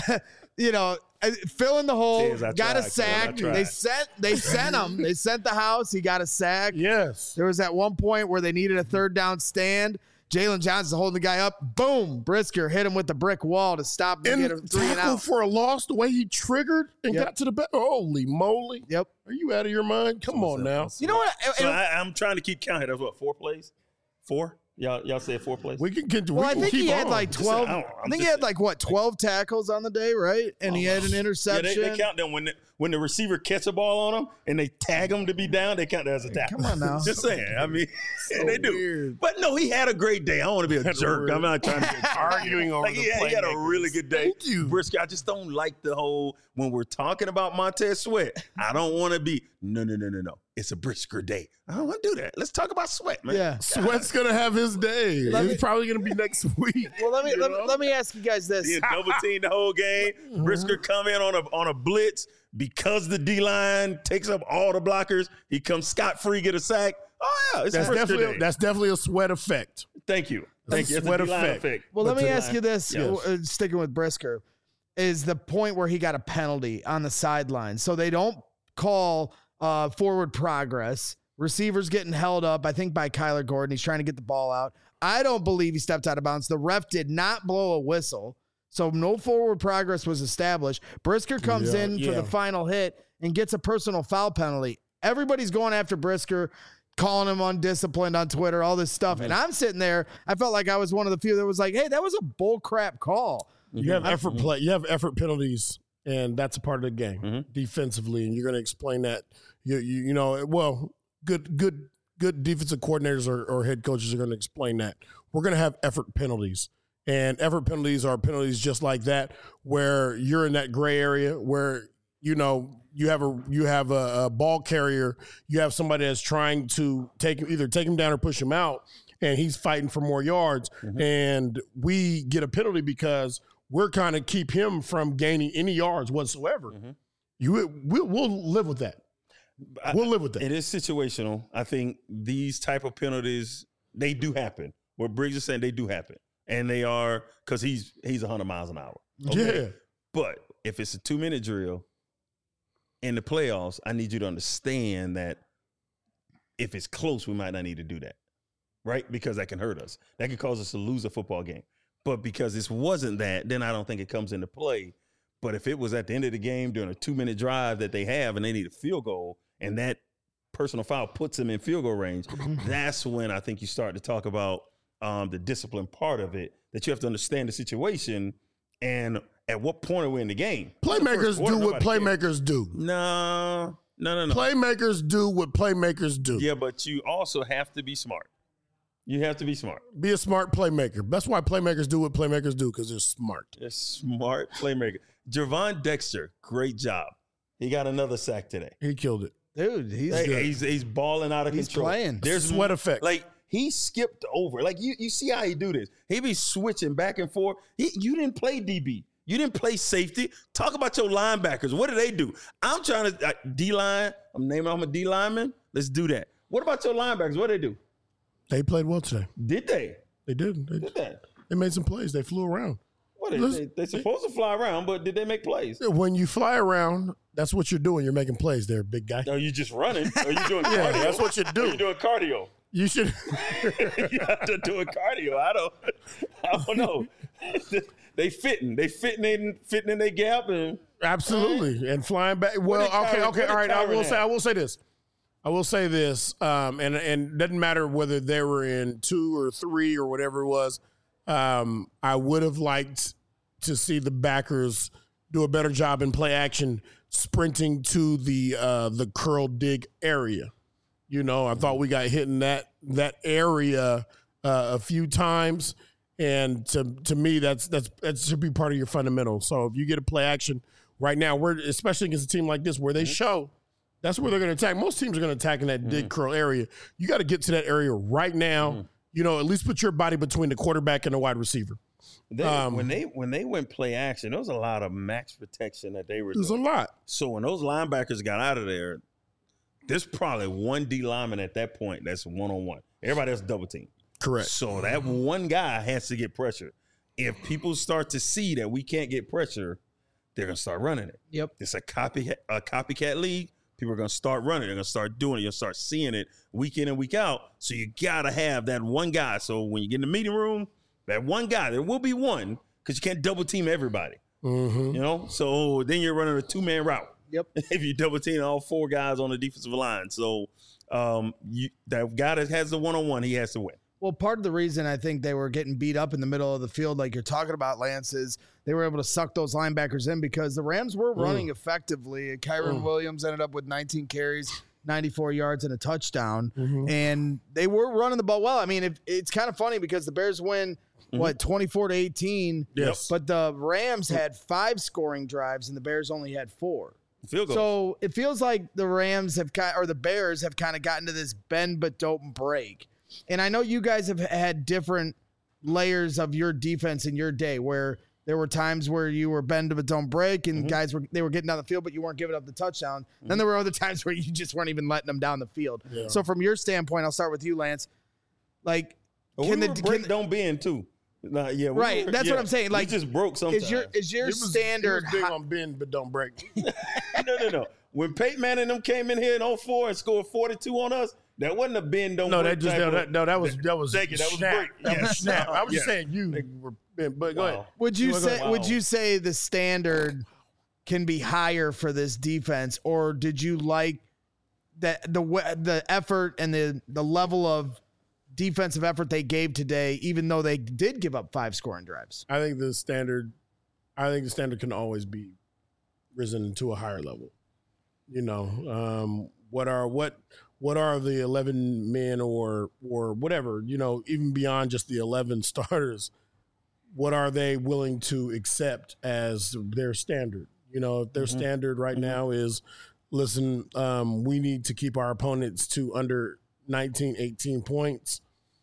you know, fill in the hole. Cheers, I got a tried, sack. Kevin, I tried. They sent they sent him. They sent the house. He got a sack. Yes. There was at one point where they needed a third down stand. Jalen Johnson holding the guy up. Boom. Brisker hit him with the brick wall to stop him and get a And three and tackle out. for a loss, the way he triggered and Yep. got to the back. Holy moly. Yep. Are you out of your mind? Come on now. You know what? So I, I'm trying to keep count here. That's what, four plays? Four? Y'all y'all said four plays? We can get to Well, we I can think keep he had on. like Just- twelve. I don't- I I'm think he just had like what twelve tackles on the day, right? And he had an Yeah, interception. they, they count them when the, when the receiver catch a ball on them and they tag them to be down. They count that as a tackle. Come on now. Just saying. I mean, they do. weird. But no, he had a great day. I don't want to be a That's jerk. weird. I'm not trying to get Arguing over like the he, had, he had a playmakers. really good day. Thank you. Brisker, I just don't like the whole when we're talking about Montez Sweat. I don't want to be no no no no no. It's a Brisker day. I don't want to do that. Let's talk about Sweat, man. Yeah. Sweat's gonna have his day. Let It's me- probably gonna be next week. Well, let me You let, me know? let me ask you guys this. He had double teamed the whole game. Brisker come in on a on a blitz because the D line takes up all the blockers. He comes scot free, get a sack. Oh yeah, it's That's a Brisker definitely day. that's definitely a Sweat effect. Thank you, thank That's you. It's sweat a D-line effect. effect. Well, let But me to- ask you this. Yes. uh, Sticking with Brisker, is the point where he got a penalty on the sideline, so they don't call uh, forward progress. Receivers getting held up, I think, by Kyler Gordon. He's trying to get the ball out. I don't believe he stepped out of bounds. The ref did not blow a whistle, so no forward progress was established. Brisker comes Yeah, in for yeah. the final hit and gets a personal foul penalty. Everybody's going after Brisker, calling him undisciplined on Twitter, all this stuff. And I'm sitting there, I felt like I was one of the few that was like, hey, that was a bull crap call. You have effort play. You have effort penalties, and that's a part of the game Mhm. defensively. And you're going to explain that. You, you you know well good good good defensive coordinators or, or head coaches are going to explain that. We're going to have effort penalties, and effort penalties are penalties just like that, where you're in that gray area where you know you have a you have a, a ball carrier, you have somebody that's trying to take either take him down or push him out, and he's fighting for more yards, Mm-hmm. and we get a penalty because we're kind of keep him from gaining any yards whatsoever. Mm-hmm. You we'll, we'll live with that. We'll live with that. It is situational. I think these type of penalties, they do happen. What Briggs is saying, they do happen. And they are because he's he's one hundred miles an hour. Okay? Yeah. But if it's a two-minute drill in the playoffs, I need you to understand that if it's close, we might not need to do that, right? Because that can hurt us. That could cause us to lose a football game. But because this wasn't that, then I don't think it comes into play. But if it was at the end of the game during a two-minute drive that they have and they need a field goal, and that personal foul puts them in field goal range, that's when I think you start to talk about um, the discipline part of it, that you have to understand the situation. And at what point are we in the game? Playmakers Quarter, do what playmakers cares. do. No, no, no, no. Playmakers do what playmakers do. Yeah, but you also have to be smart. You have to be smart. Be a smart playmaker. That's why playmakers do what playmakers do, because they're smart. A smart playmaker. Gervon Dexter, great job. He got another sack today. He killed it. Dude, he's Hey, good. he's he's balling out of He's control. playing. There's Sweat effect. Like he skipped over. Like you, you see how he do this. He be switching back and forth. He, you didn't play D B. You didn't play safety. Talk about your linebackers. What do they do? I'm trying to uh, D line. I'm naming I'm a D lineman. Let's do that. What about your linebackers? What do they do? They played well today. Did they? They did. They, Did they? they made some plays. They flew around. What they, Listen- they, they supposed to fly around, but did they make plays? When you fly around, that's what you're doing. You're making plays there, big guy. Are you just running? Are you doing Yeah, cardio? that's what you do. Are you doing cardio? You should. You have to do a cardio. I don't. I don't know. They fitting. They fitting in. Fitting in their gap and. Absolutely, and flying back. Well, did okay, Kyron- okay, what all did right. I Kyron will have? say, I will say this. I will say this, um, and and doesn't matter whether they were in two or three or whatever it was. Um, I would have liked to see the backers do a better job in play action, sprinting to the uh, the curl dig area. You know, I thought we got hit in that that area uh, a few times. And to to me, that's that's that should be part of your fundamental. So if you get a play action right now, we're especially against a team like this where they show, that's where they're going to attack. Most teams are going to attack in that mm-hmm. dig curl area. You got to get to that area right now. Mm-hmm. You know, at least put your body between the quarterback and the wide receiver. They, Um, when they when they went play action, there was a lot of max protection that they were There's doing. a lot. So when those linebackers got out of there, there's probably one D lineman at that point that's one on one. Everybody else double team. Correct. So that one guy has to get pressure. If people start to see that we can't get pressure, they're gonna start running it. Yep. It's a copy a copycat league. People are gonna start running. They're gonna start doing it. You'll start seeing it week in and week out. So you gotta have that one guy. So when you get in the meeting room, that one guy, there will be one because you can't double team everybody. Mm-hmm. You know, so then you're running a two man route. Yep. If you double team all four guys on the defensive line, so um, you, that guy that has the one on one, he has to win. Well, part of the reason I think they were getting beat up in the middle of the field, like you're talking about, Lance, is they were able to suck those linebackers in because the Rams were running mm. effectively. Kyron mm. Williams ended up with nineteen carries, ninety-four yards, and a touchdown. Mm-hmm. And they were running the ball well. I mean, if, it's kind of funny because the Bears win, mm-hmm. what, twenty-four to eighteen? Yes. But the Rams had five scoring drives and the Bears only had four. Field goal. So it feels like the Rams have kind, or the Bears have kind of gotten to this bend but don't break. And I know you guys have had different layers of your defense in your day where there were times where you were bend but don't break and mm-hmm. guys were they were getting down the field, but you weren't giving up the touchdown. Mm-hmm. Then there were other times where you just weren't even letting them down the field. Yeah. So from your standpoint, I'll start with you, Lance. Like, well, can we the break can, don't bend too? Nah, yeah, we right. Were, That's yeah. what I'm saying. Like, we just broke sometimes. Is your is your he was, standard he was big high, on bend but don't break? no, no, no. When Peyton Manning and them came in here in oh four and scored forty-two on us, that wasn't a bend don't no, break. That just, no, that, no, that was that was Thank you. That was snap. break. That Yeah. was snap. I was Yeah. just saying you were bend, but go Wow. ahead. Would you Go say ahead. would Wow. you say the standard can be higher for this defense, or did you like that the the effort and the the level of defensive effort they gave today, even though they did give up five scoring drives? I think the standard, I think the standard can always be risen to a higher level. You know, um, what are what what are the eleven men or or whatever? You know, even beyond just the eleven starters, what are they willing to accept as their standard? You know, if their mm-hmm. standard right mm-hmm. now is, listen, um, we need to keep our opponents to under nineteen, eighteen points.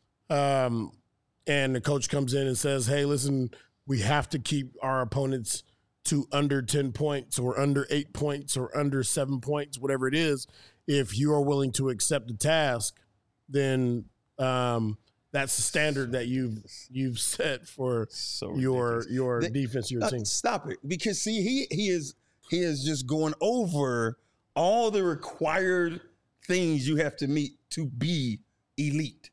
Um, and the coach comes in and says, hey, listen, we have to keep our opponents to under ten points or under eight points or under seven points, whatever it is. If you are willing to accept the task, then um, that's the standard that you've you've set for So your ridiculous. your They- defense, your Uh, team. Stop it. Because see, he he is he is just going over all the required things you have to meet to be elite.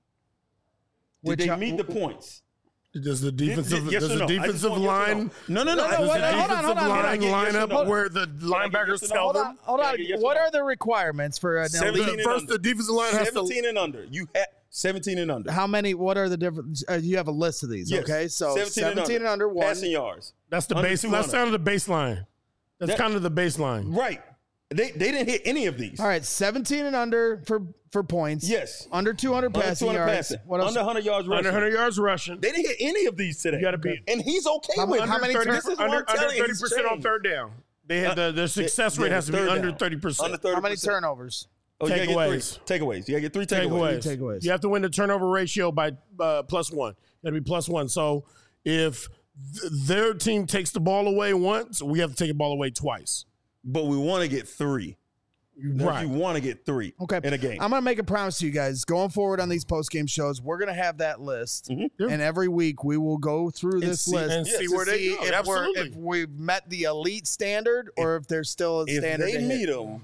Did Which they I- meet the points? Does the defensive Yes or does the no? I just defensive want yes or line No, no, no. No, I no, just- what- does the hold on, defensive hold on. line Can I get yes line or up no? where the I get linebackers yes or no? tell Hold them? on, hold Can I on. get yes or What no? are the requirements for an Seventeen elite? and First, under. the defensive line has to seventeen and under. You ha- seventeen and under. How many? What are the different? Uh, you have a list of these, Yes. okay? So seventeen, seventeen and under, one. Passing yards. That's the Under base. two That's hundred. kind of the baseline. That's That- kind of the baseline. Right. They they didn't hit any of these. All right, seventeen and under for for points. Yes. Under two hundred Under passing two hundred yards. passing. What else? Under one hundred yards rushing. Under one hundred yards rushing. They didn't hit any of these today. You got to be And he's okay How with mu- it. how many under turn- thirty, This is what under, I'm telling under you, thirty he's percent on changed. third down. They had the, the success Yeah, rate has to be third under down. thirty percent. Under thirty How many percent. turnovers? Oh, you gotta get Takeaways. three. Takeaways. You got to get three takeaways. Takeaways. Takeaways. You have to win the turnover ratio by uh, plus one. You got to be plus one. So if th- their team takes the ball away once, we have to take the ball away twice. But we want to get three. Right. You want to get three Okay. in a game. I'm going to make a promise to you guys. Going forward on these post game shows, we're going to have that list. Yeah. And every week we will go through this see- list and Yeah, see to where they see go. if, we're, Absolutely. if we've met the elite standard or if, there's still a if standard. they to hit. meet them,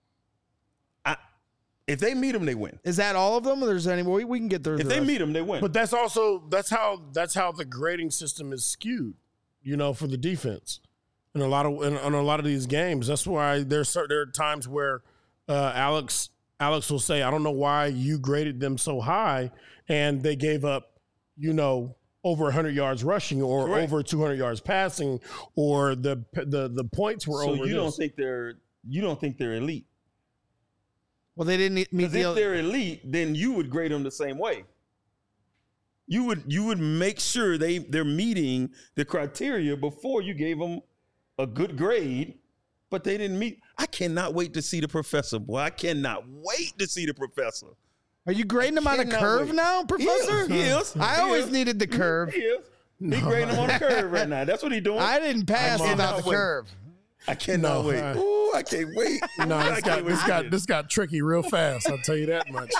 I, if they meet them, they win. Is that all of them? Or there's any we, we can get through If the they rest. meet them, they win. But that's also that's how that's how the grading system is skewed, you know, for the defense. In a lot of in, in a lot of these games, that's why there's cer- there are times where uh, Alex Alex will say, "I don't know why you graded them so high," and they gave up, you know, over one hundred yards rushing or Correct. over two hundred yards passing, or the the the points were so over. you this. don't think they're you don't think they're elite? Well, they didn't meet Because the if they're elite, then you would grade them the same way. You would you would make sure they they're meeting the criteria before you gave them a good grade, but they didn't meet. I cannot wait to see the professor, boy. I cannot wait to see the professor. Are you grading them on a cannot curve wait. now, Professor? He is. He I is. always He needed the curve. He is. He grading them on a curve right now. That's what he's doing. I didn't pass I without cannot the wait. curve. I cannot No, wait. uh, Ooh, I can't wait. No, I this can't got wait this to got see it. this got tricky real fast. I'll tell you that much.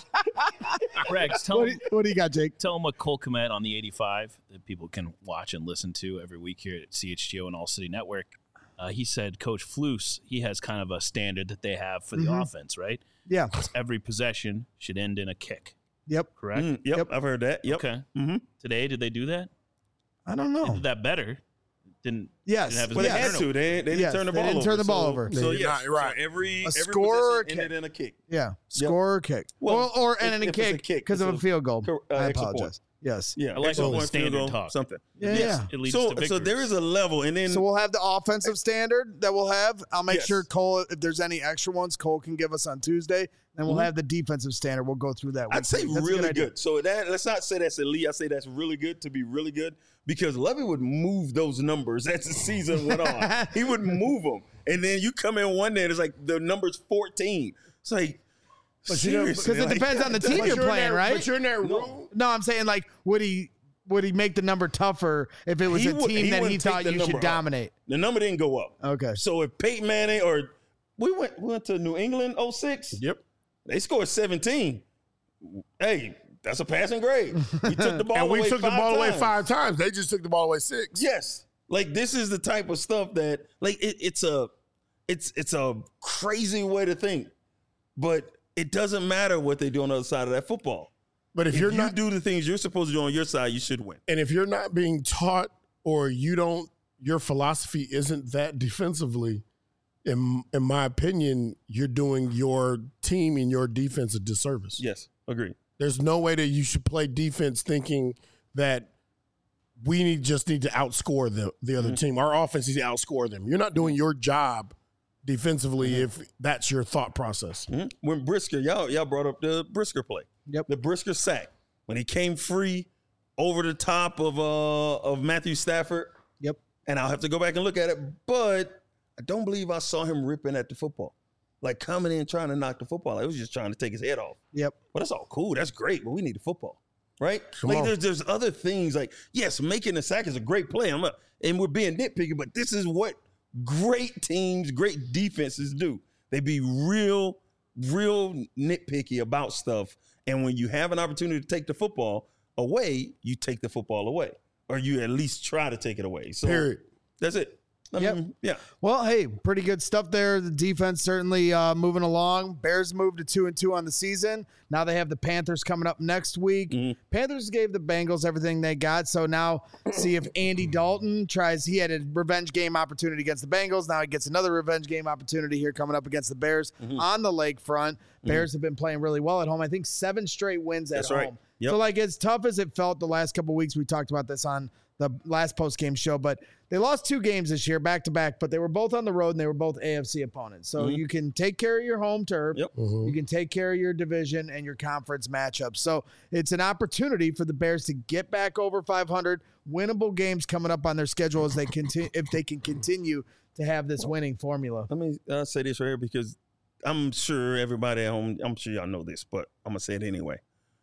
Rex, tell What do, him, you, what do you got, Jake? tell him what Cole Kmet on the eighty-five that people can watch and listen to every week here at C H G O and All City Network. Uh, he said Coach Flus, he has kind of a standard that they have for the Mhm. offense, right? Yeah. It's every possession should end in a kick, Yep. correct? Mm, yep, Yep. I've heard that. Yep. Okay. Mm-hmm. Today, did they do that? I don't They know. did that better. Didn't Yes. didn't have as Well, they many had turnovers. to. They, they didn't Yes, turn the they ball didn't over. turn the ball so, over. So, They did yeah, not, right. so every, A every score or a possession ended in a kick. Yeah. Score or kick. Well, Well, or if- and then a if it's a kick kick, because of it's a a field goal. cor- uh, I extra apologize. point. Yes. Yeah, I like extra all the point, field standard goal, talk. something. Yeah, Yes. yeah. It leads So, to victories. so there is a level, and then So we'll have the offensive standard that we'll have. I'll make Yes. sure Cole, if there's any extra ones, Cole can give us on Tuesday. Then we'll Mhm. have the defensive standard. We'll go through that. I'd week. say That's a really idea. good. So that let's not say that's elite. I say that's really good to be really good because Levy would move those numbers as the season went on. He would move them, and then you come in one day and it's like the number's fourteen. It's like But you know, seriously, Because it like, depends on the team But you're you're in playing, that- right? But you're in that No. room. No, I'm saying like, would he would he make the number tougher if it was He a would- team he that he wouldn't take thought the you number should up. dominate? The number didn't go up. Okay. So if Peyton Manning or we went we went to New England oh six, Yep. they scored seventeen. Hey, that's a passing grade. We took the ball And we away took the five ball away times. five times. They just took the ball away six. Yes. Like this is the type of stuff that like it, it's a it's it's a crazy way to think. But it doesn't matter what they do on the other side of that football. But if, If, you're you not, do the things you're supposed to do on your side, you should win. and if you're not being taught, or you don't, your philosophy isn't that defensively. In in my opinion, you're doing your team and your defense a disservice. Yes, agree. There's no way that you should play defense thinking that we need just need to outscore the the other Mm-hmm. team. Our offense needs to outscore them. You're not doing your job defensively Mm-hmm. if that's your thought process. Mhm. When Brisker, y'all y'all brought up the Brisker play. Yep. The Brisker sack when he came free over the top of uh of Matthew Stafford. Yep. And I'll have to go back and look at it, but I don't believe I saw him ripping at the football, like coming in trying to knock the football. Like, he was just trying to take his head off. Yep. Well, that's all cool. That's great, but we need the football, right? Come like on. there's there's other things. Like yes, making the sack is a great play. I'm not, and we're being nitpicky, but this is what great teams, great defenses do. They be real, real nitpicky about stuff. And when you have an opportunity to take the football away, you take the football away, or you at least try to take it away. So Period. that's it. I Yep. mean, yeah. Well, hey, pretty good stuff there. The defense certainly uh, moving along. Bears moved to two and two on the season. Now they have the Panthers coming up next week. Mm-hmm. Panthers gave the Bengals everything they got. So now see if Andy Dalton tries. He had a revenge game opportunity against the Bengals. Now he gets another revenge game opportunity here coming up against the Bears Mm-hmm. on the lakefront. Bears have been playing really well at home. I think seven straight wins at That's home. right. Yep. So like as tough as it felt the last couple of weeks, we talked about this on the last post-game show, but they lost two games this year back to back, but they were both on the road and they were both A F C opponents. So Mm-hmm. you can take care of your home turf. Yep. You can take care of your division and your conference matchups. So it's an opportunity for the Bears to get back over five hundred. Winnable games coming up on their schedule as they continue, if they can continue to have this winning formula. Let me uh, say this right here because I'm sure everybody at home, I'm sure y'all know this, but I'm going to say it anyway.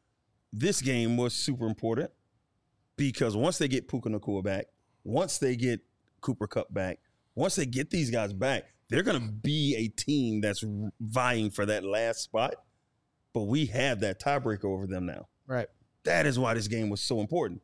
This game was super important because once they get Puka Nacua back, once they get Cooper Kupp back, once they get these guys back, they're going to be a team that's vying for that last spot. But we have that tiebreaker over them now. Right. That is why this game was so important.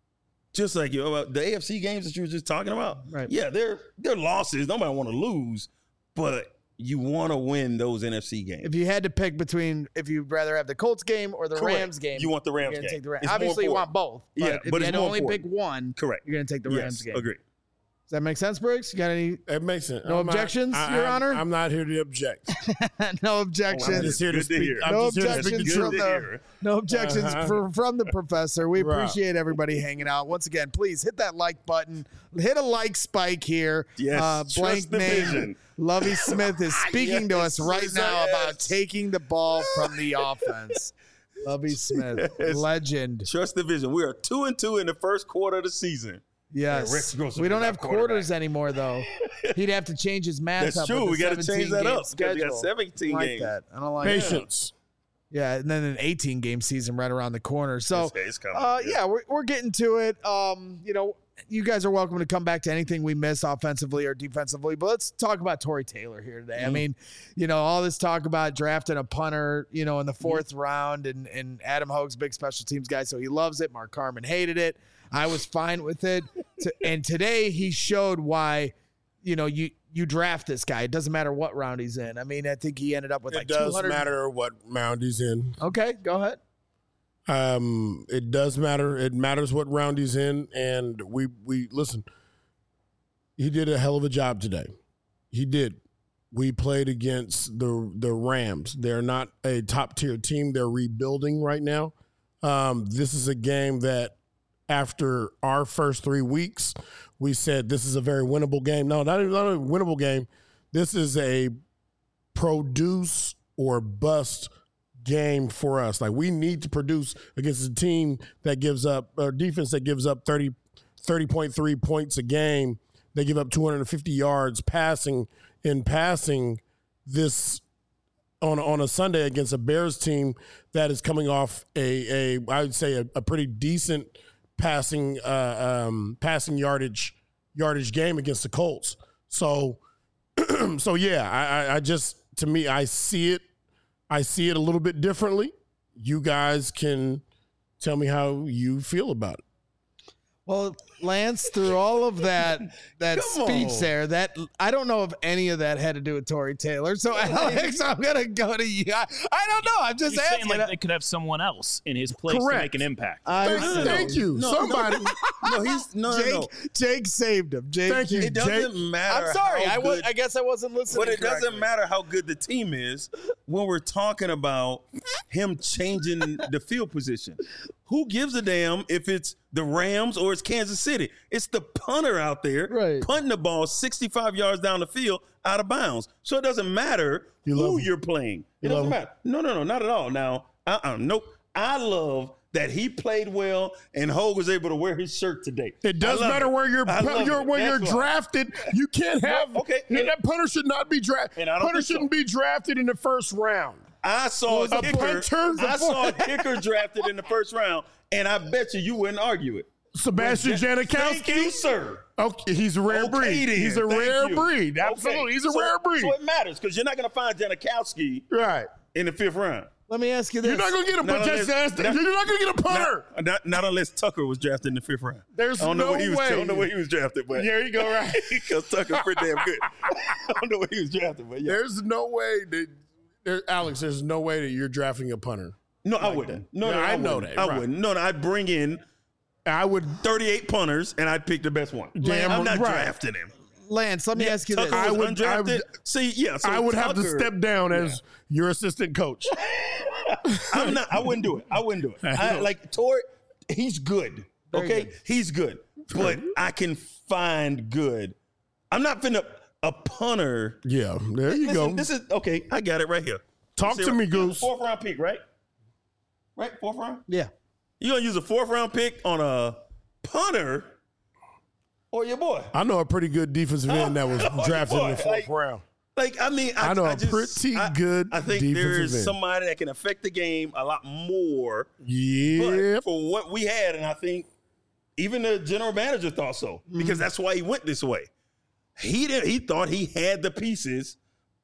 Just like you know, the A F C games that you were just talking about. Right. Yeah, they're they're losses. Nobody want to lose, but you want to win those N F C games. If you had to pick between if you'd rather have the Colts game or the Correct. Rams game, You want the Rams you're gonna game. take the Rams. It's more Obviously, you want important. both. But Yeah, if but you it's had to more only important. pick one, Correct. you're going to take the Rams Yes, game. agree. Does that make sense, Briggs? You got any? It makes sense. No I'm not- objections, I- Your I'm- Honor? I'm not here to object. No I'm objections. just here to Good to speak. hear. I'm No just here to speak the objections Good from truth. to the hear. no objections Uh-huh. for, from the professor. We Right. appreciate everybody hanging out. Once again, please hit that like button. Hit a like spike here. Yes, Uh, trust blank the name. vision. Lovey Smith is speaking to us Yes, right yes, now yes. about taking the ball from the offense. Lovey Smith, Yes. legend. Trust the vision. We are two and two in the first quarter of the season. Yes. Rex Grossman We don't is have our quarterback. quarters anymore, though. He'd have to change his math That's up. true. with We the got to change that seventeen game up because we got schedule. seventeen I don't like games. that. I don't like that. Patience. Yeah, and then an eighteen game season right around the corner. So, It's- it's coming, uh, yeah. yeah, we're, we're getting to it. Um, you know, you guys are welcome to come back to anything we miss offensively or defensively, but let's talk about Torrey Taylor here today. Mm-hmm. I mean, you know, all this talk about drafting a punter, you know, in the Mm-hmm. fourth round, and, and Adam Hogue's big special teams guy, so he loves it. Mark Carman hated it. I was fine with it. To, and today he showed why, you know, you you draft this guy. It doesn't matter what round he's in. I mean, I think he ended up with It like does two hundred. matter what round he's in. Okay, go ahead. Um, it does matter. It matters what round he's in, and we we listen. He did a hell of a job today. He did. We played against the the Rams. They're not a top tier team. They're rebuilding right now. Um, this is a game that after our first three weeks, we said this is a very winnable game. No, not, not a winnable game. This is a produce or bust game for us. Like, we need to produce against a team that gives up, or defense that gives up thirty, thirty point three points a game. They give up two hundred fifty yards passing in passing this on on a Sunday against a Bears team that is coming off a a I would say a, a pretty decent passing uh, um, passing yardage yardage game against the Colts. So so yeah, I, I, I just to me I see it I see it a little bit differently. You guys can tell me how you feel about it. Well, Lance, through all of that that Come speech on. there, that I don't know if any of that had to do with Torrey Taylor. So Alex, I'm gonna go to you. I, I don't know. I'm just You're asking. saying like they could have someone else in his place Correct. to make an impact. I Thank, don't know. thank you. No, Somebody. No, he's no, no, Jake, no. Jake saved him. Jake, Thank you. It doesn't matter. I'm sorry. how I was. good- I guess I wasn't listening. But it doesn't correctly. matter how good the team is when we're talking about him changing the field position. Who gives a damn if it's the Rams or it's Kansas City? It's the punter out there Right. punting the ball sixty-five yards down the field out of bounds. So it doesn't matter You love who him. you're playing. It You doesn't love him. matter. No, no, no, not at all. Now, uh-uh, nope. I love that he played well and Hogue was able to wear his shirt today. It does I love matter it. where you're, I love you're it. when you're That's why. drafted. You can't have No, okay. and that punter should not be drafted. And I don't Punter think so. shouldn't be drafted in the first round. I saw Well, a a kicker. punter- I saw a kicker drafted in the first round, and I bet you you wouldn't argue it. Sebastian Thank Janikowski. you, sir. Okay, he's a rare Okay, breed. then. He's a Thank rare you. breed. Okay. Absolutely, he's a So- rare breed. So it matters because you're not going to find Janikowski Right. in the fifth round. Let me ask you this. You're not going to get a Not contested unless- ass. not- You're not going to get a punter. Not, not, not unless Tucker was drafted in the fifth round. There's I don't know no where he was, way. I don't know where he was drafted, but There you go, right. because Tucker's pretty damn good. I don't know where he was drafted, but yeah. There's no way that, there, Alex, there's no way that you're drafting a punter. No, I wouldn't. No, no, Yeah, I, I know wouldn't. that, I right. wouldn't. No, no, I'd bring in I would. thirty-eight punters and I'd pick the best one. Damn I'm not right. drafting him. Lance, let me Yeah, ask you Tucker this. I was would- I undrafted. would- See, yeah, so I would have to Tucker- step down as your assistant coach. I'm not. I wouldn't do it. I wouldn't do it. I, like Torrey, he's good. Very Okay, good. he's good, but I can find good. I'm not finna a punter. Yeah, there you Listen, go. This is okay. I got it right here. Talk See, to me, you got a Goose. Fourth round pick, right? Right, fourth round. Yeah. You gonna use a fourth round pick on a punter or your boy? I know a pretty good defensive end that was Oh, drafted in the boy, fourth like- round. Like I mean, I, I know I a just, pretty I- good I think defensive there's end. somebody that can affect the game a lot more. Yeah, But for what we had, and I think even the general manager thought so because that's why he went this way. He did. He thought he had the pieces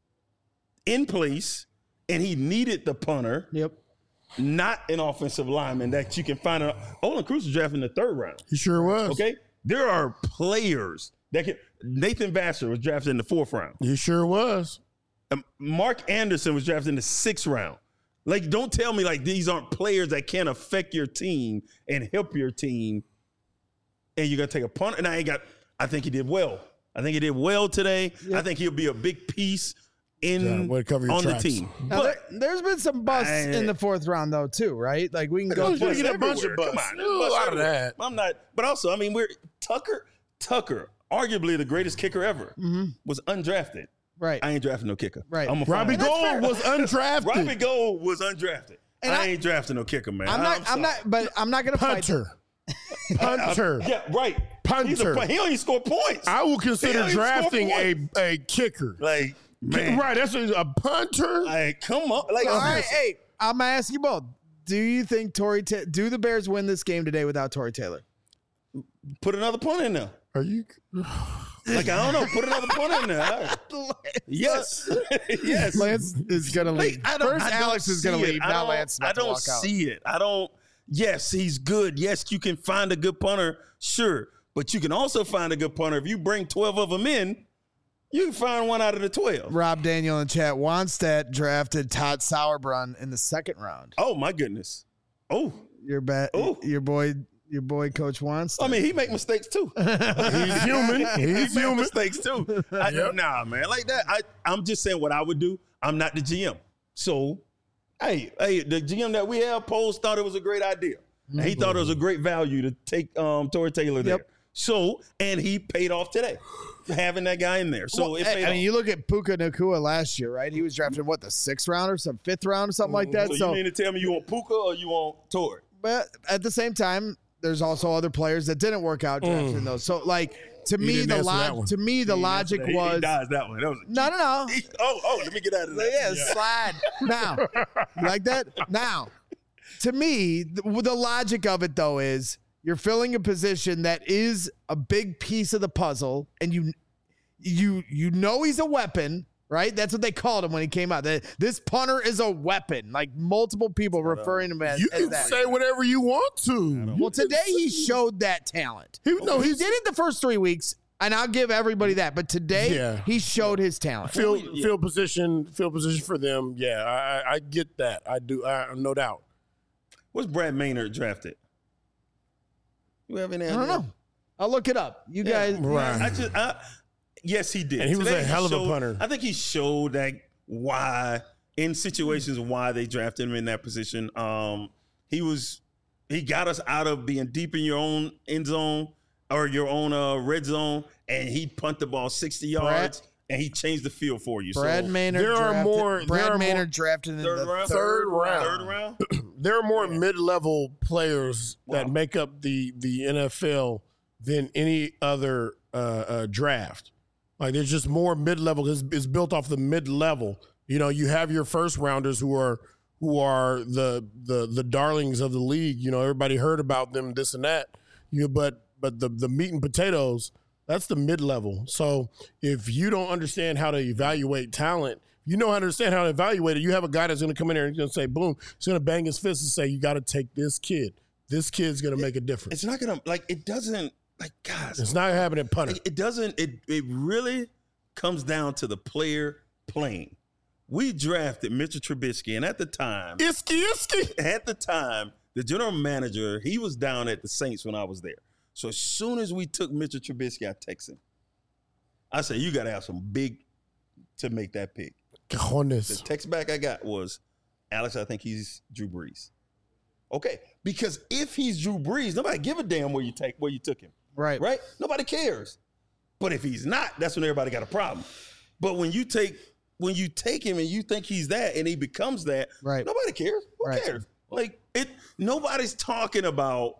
in place, and he needed the punter, Yep. not an offensive lineman that you can find. A, Olin Cruz was drafted in the third round. he sure was. Okay, there are players that can. Nathan Vassar was drafted in the fourth round. He sure was. Um, Mark Anderson was drafted in the sixth round. Like, don't tell me like these aren't players that can affect your team and help your team. And you're gonna take a punt. And I ain't got. I think he did well. I think he did well today. I think he'll be a big piece in Yeah, way to cover your on tracks. the team. Now, But there, there's been some busts I- in the fourth round, though, too, right? Like, we can go There's through. gonna get a bunch of everywhere. busts. Come on, There's there's a busts lot of everywhere. that. I'm not. But also, I mean, we're Tucker. Tucker, arguably the greatest kicker ever, was undrafted. Right. I ain't drafting no kicker. Right. I'm a Robbie find- Gold was undrafted. Robbie Gold was undrafted. And I, I- ain't drafting no kicker, man. I'm not, I'm, sorry. not, but I'm not going to fight. Punter. Punter. Yeah, right. He's a, Punter. pu- he don't even score points. I will He consider don't even score drafting a, points. a kicker. like, man, Right, that's a, a punter. like, come on. Like, All right, listen. hey, I'm going to ask you both. Do you think Torrey, Ta- do the Bears win this game today without Torrey Taylor? Put another punt in there. Are you? Like, I don't know. Put another punt in there. Yes. yes. Lance is going to leave. Like, I don't- First, I don't Alex is going see to it. leave. I Now don't- Lance is about I to don't walk out. see it. I don't. Yes, he's good. Yes, you can find a good punter. Sure. But you can also find a good punter. If you bring twelve of them in, you can find one out of the twelve. Rob Daniel in chat. Wannstedt drafted Todd Sauerbrunn in the second round. Oh, my goodness. Oh, Your bet, Oh. your boy, your boy, Coach Wannstedt. I mean, he make mistakes too. He's human. he He's make human. mistakes too. I, Yep. Nah, man, like that. I, I'm just saying what I would do. I'm not the G M. So, hey, hey, the G M that we have, Poles thought it was a great idea. And he thought it was a great value to take um, Torrey Taylor there. Yep. So, and he paid off today, having that guy in there. So Well, it I paid I off. mean, you look at Puka Nakua last year, right? He was drafted what, the sixth round or some fifth round or something like that. so, So, you mean to tell me you want Puka or you want Torrey? but at the same time, there's also other players that didn't work out drafting those. So, like to me, didn't the answer that log one. to me the logic He- he was dodged that one. That was no, no, no. He- oh, oh, let me get out of that. Yeah, slide now. You like that? Now, to me, the, the logic of it though is you're filling a position that is a big piece of the puzzle, and you, you, you know he's a weapon, right? That's what they called him when he came out. That this punter is a weapon. Like multiple people referring to him as, You as can that. say whatever you want to. Well, today he showed that talent. He, no, He he's did it the first three weeks, and I'll give everybody that. But today, Yeah. he showed his talent. field field position field position for them. Yeah, I, I- I get that. I do. I, no doubt. What's Brad Maynard drafted? You have any I idea? don't know. I'll look it up. You guys, Right. I just, I, yes, he did. And he was Today a hell of a showed- punter. I think he showed that why in situations why they drafted him in that position. Um, he was he got us out of being deep in your own end zone or your own uh, red zone, and he punt the ball sixty yards, and he changed the field for you. Brad so, Maynard. there are drafted, more- Brad there are Maynard more- drafted in third the round, Third round. third round. There are more mid-level players that Wow. make up the the N F L than any other uh, uh, draft. Like there's just more mid-level. It's, it's built off the mid-level. You know, you have your first rounders who are who are the the the darlings of the league. You know, everybody heard about them, this and that. You but but the the meat and potatoes, that's the mid-level. So if you don't understand how to evaluate talent, you know how to understand how to evaluate it. You have a guy that's going to come in there and going to say, boom, he's going to bang his fist and say, you got to take this kid. This kid's going to make a difference. It's not going to, like, it doesn't, like, guys. It's not happening at punter. It, it doesn't, it, it really comes down to the player playing. We drafted Mitchell Trubisky, and at the time, Isky, isky. At the time, the general manager, he was down at the Saints when I was there. So as soon as we took Mitchell Trubisky, I texted him. I said, you got to have some big to make that pick. Cojones. The text back I got was, Alex, I think he's Drew Brees. Okay, because if he's Drew Brees, nobody give a damn where you take where you took him. Right. Right? Nobody cares. But if he's not, that's when everybody got a problem. But when you take when you take him and you think he's that and he becomes that, right. nobody cares. Who right. cares? Like it nobody's talking about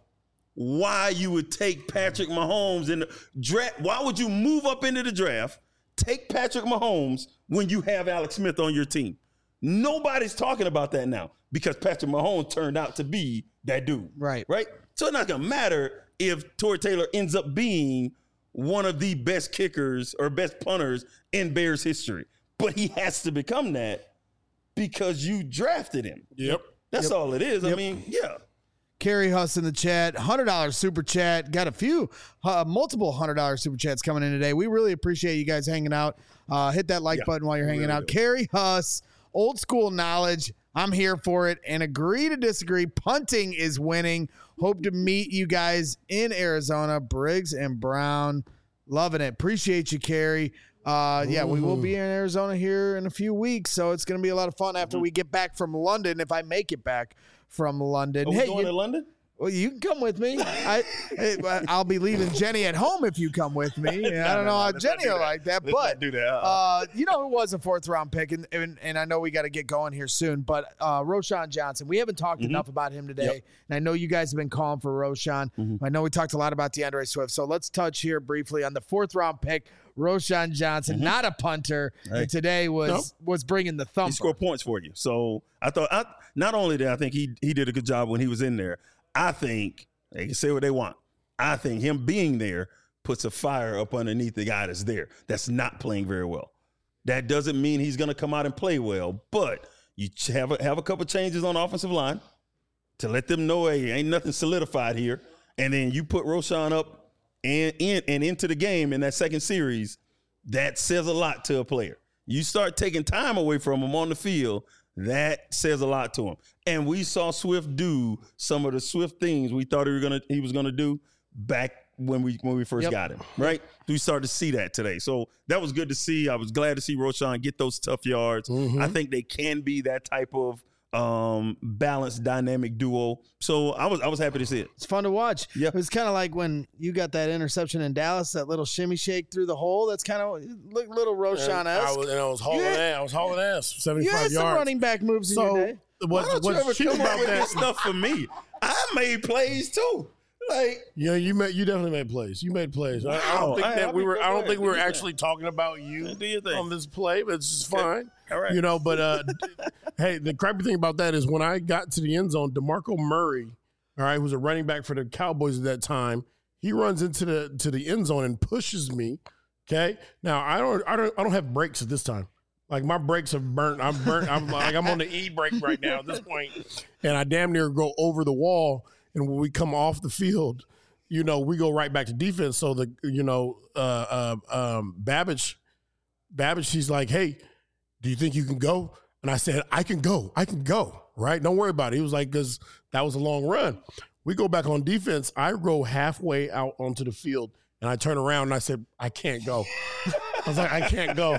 why you would take Patrick Mahomes in the draft. Why would you move up into the draft, take Patrick Mahomes when you have Alex Smith on your team? Nobody's talking about that now because Patrick Mahomes turned out to be that dude. Right. Right? So it's not going to matter if Torrey Taylor ends up being one of the best kickers or best punters in Bears history. But he has to become that because you drafted him. Yep. That's yep. all it is. Yep. I mean, yeah. Kerry Huss in the chat, one hundred dollars super chat. Got a few, uh, multiple one hundred dollars super chats coming in today. We really appreciate you guys hanging out. Uh, hit that like yeah, button while you're hanging really out. do. Kerry Huss, old school knowledge. I'm here for it and agree to disagree. Punting is winning. Hope to meet you guys in Arizona. Briggs and Brown. Loving it. Appreciate you, Kerry. Uh, yeah, we will be in Arizona here in a few weeks, so it's going to be a lot of fun after mm-hmm. we get back from London, if I make it back from London. Are we hey, going you, to London? Well, you can come with me. I, I'll be leaving Jenny at home if you come with me. no, I don't no, know no, how let's Jenny not will do like that, Let's but not do that. Uh-uh. uh, you know, it was a fourth round pick, and and, and I know we got to get going here soon. But uh, Roschon Johnson, we haven't talked mm-hmm. enough about him today, Yep. and I know you guys have been calling for Roschon. Mm-hmm. I know we talked a lot about DeAndre Swift, so let's touch here briefly on the fourth round pick. Roschon Johnson, mm-hmm. not a punter, Hey. and today was Nope. was bringing the thumper. He scored points for you. So I thought, I, not only did I think he he did a good job when he was in there, I think they can say what they want. I think him being there puts a fire up underneath the guy that's there that's not playing very well. That doesn't mean he's going to come out and play well, but you ch- have a, have a couple changes on the offensive line to let them know, hey, ain't nothing solidified here. And then you put Roschon up and in and into the game in that second series. That says a lot to a player. You start taking time away from him on the field, that says a lot to him. And we saw Swift do some of the Swift things we thought he was gonna he was gonna do back when we when we first Yep. got him. Right? We started to see that today. So that was good to see. I was glad to see Roschon get those tough yards. Mm-hmm. I think they can be that type of um balanced dynamic duo. So I was I was happy to see it. It's fun to watch. Yeah. It was kind of like when you got that interception in Dallas, that little shimmy shake through the hole. That's kind of look little And I Roschon-esque. was, and I was hauling You had- ass. I was hauling ass. You seventy-five had some yards. running back moves in So your day. Why what, don't you what's ever cheap come up about with that? this stuff for me? I made plays too. Like Yeah, you made you definitely made plays. You made plays. I, I Wow. don't think I- that I we mean, were. go I don't ahead. think we Do were your actually talking about you Do your thing. on this play, but it's just fine. All right. You know, but uh, hey, the crappy thing about that is when I got to the end zone, DeMarco Murray, all right, who was a running back for the Cowboys at that time, he runs into the to the end zone and pushes me. Okay, now I don't I don't I don't have brakes at this time. Like my brakes have burnt. I'm burnt. I'm like I'm on the E brake right now at this point, and I damn near go over the wall. And when we come off the field, you know, we go right back to defense. So the you know, uh, uh, um, Babbage, Babbage, she's like, "Hey, do you think you can go?" And I said, "I can go. I can go. Right? Don't worry about it." He was like, "Because that was a long run." We go back on defense. I go halfway out onto the field, and I turn around and I said, "I can't go." I was like, "I can't go."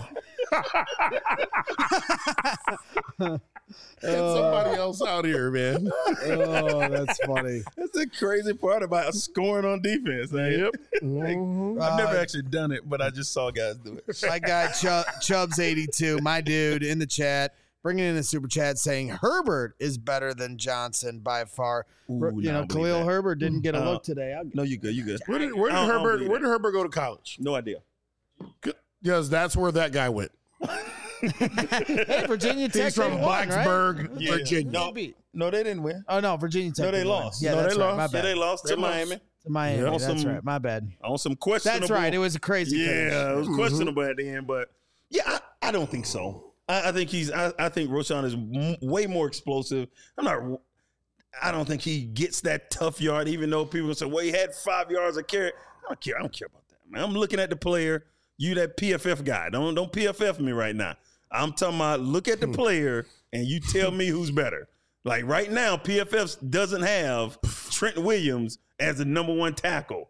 Get somebody else out here, man. Oh, that's funny. That's the crazy part about scoring on defense. Man. Yep. Mhm. I've never Uh, actually done it, but I just saw guys do it. My guy Chub, Chubbs eighty-two, my dude in the chat, bringing in a super chat saying Herbert is better than Johnson by far. Ooh, you no, know, I believe Khalil that. Herbert didn't get a Uh, look today. I'll, No, you good. You good. Where did, where did I don't- I don't Herbert? believe Where that. did Herbert go to college? No idea. Yes, that's where that guy went. hey, Virginia Tech He's from they won, right? Blacksburg, Yeah. Virginia. No, Maybe. no, they didn't win. Oh no, Virginia Tech. No, they did win. lost. Yeah, No, that's they right. lost. My Yeah, bad. they lost They to lost. Miami To Miami. Yeah. That's On some- right. My bad. on some questionable. That's right. It was a crazy finish. Yeah, it was Mhm. questionable at the end, but yeah, I, I don't think so. I, I think he's. I, I think Roschon is m- way more explosive. I'm not. I don't think he gets that tough yard. Even though people say, "Well, he had five yards of carry." I don't care. I don't care about that, man. I'm looking at the player. You that P F F guy. Don't don't P F F me right now. I'm talking about look at the player and you tell me who's better. Like right now, P F F doesn't have Trent Williams as the number one tackle.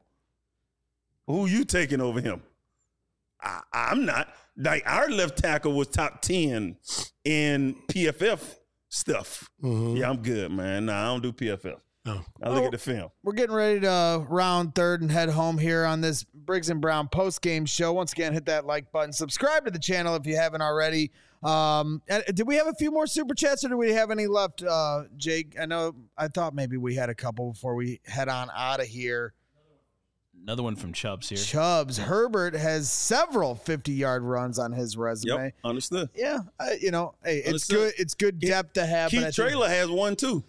Who you taking over him? I, I'm not. Like our left tackle was top ten in P F F stuff. Mm-hmm. Yeah, I'm good, man. Nah, I don't do P F F. No. I look well, at the film. We're getting ready to round third and head home here on this Briggs and Brown post-game show. Once again, hit that like button. Subscribe to the channel if you haven't already. Um, did we have a few more super chats or do we have any left, uh, Jake? I know I thought maybe we had a couple before we head on out of here. Another one from Chubbs here. Chubbs. Herbert has several fifty-yard runs on his resume. Yep, understood. Yeah, I, you know, hey, it's Understood. good. It's good depth to have. Keith Traylor has one too.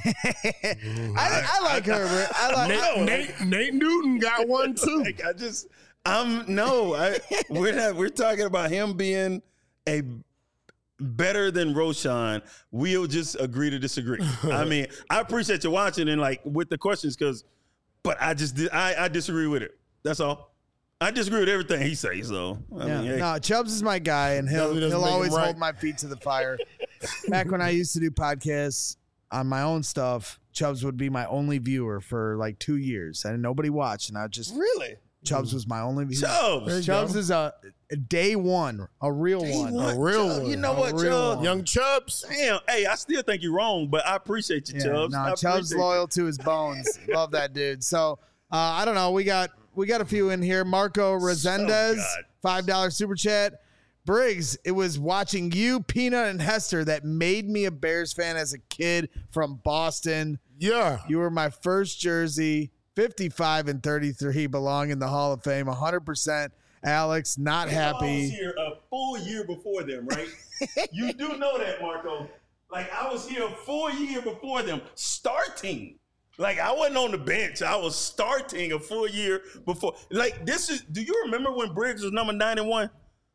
I, I like Herbert. I like Nate, Nate, Nate Newton got one too. Like, I just, I'm no, I, we're not. We're talking about him being a better than Roschon. We'll just agree to disagree. I mean, I appreciate you watching and like with the questions because, but I just I, I disagree with it. That's all. I disagree with everything he says. So I yeah. mean, hey. No, Chubbs is my guy, and he'll Definitely doesn't he'll make him always right. hold my feet to the fire. Back when I used to do podcasts on my own stuff, Chubbs would be my only viewer for like two years, and nobody watched. And I just really Chubbs was my only viewer. Chubbs. Chubbs is a, a day one, a real Day one, one. A real Chubbs. one. You know A what, real Chubbs? one. Young Chubbs. Damn. Hey, I still think you're wrong, but I appreciate you, Yeah, Chubbs. no, I Chubbs appreciate loyal to his bones. Love that dude. So uh, I don't know. We got we got a few in here. Marco Resendez, God. five dollar super chat. Briggs, it was watching you, Peanut, and Hester that made me a Bears fan as a kid from Boston. Yeah. You were my first jersey. fifty-five and thirty-three belong in the Hall of Fame. one hundred percent. Alex, not I was happy. here a full year before them, right? You do know that, Marco. Like, I was here a full year before them, starting. Like, I wasn't on the bench. I was starting a full year before. Like, this is, do you remember when Briggs was number ninety-one?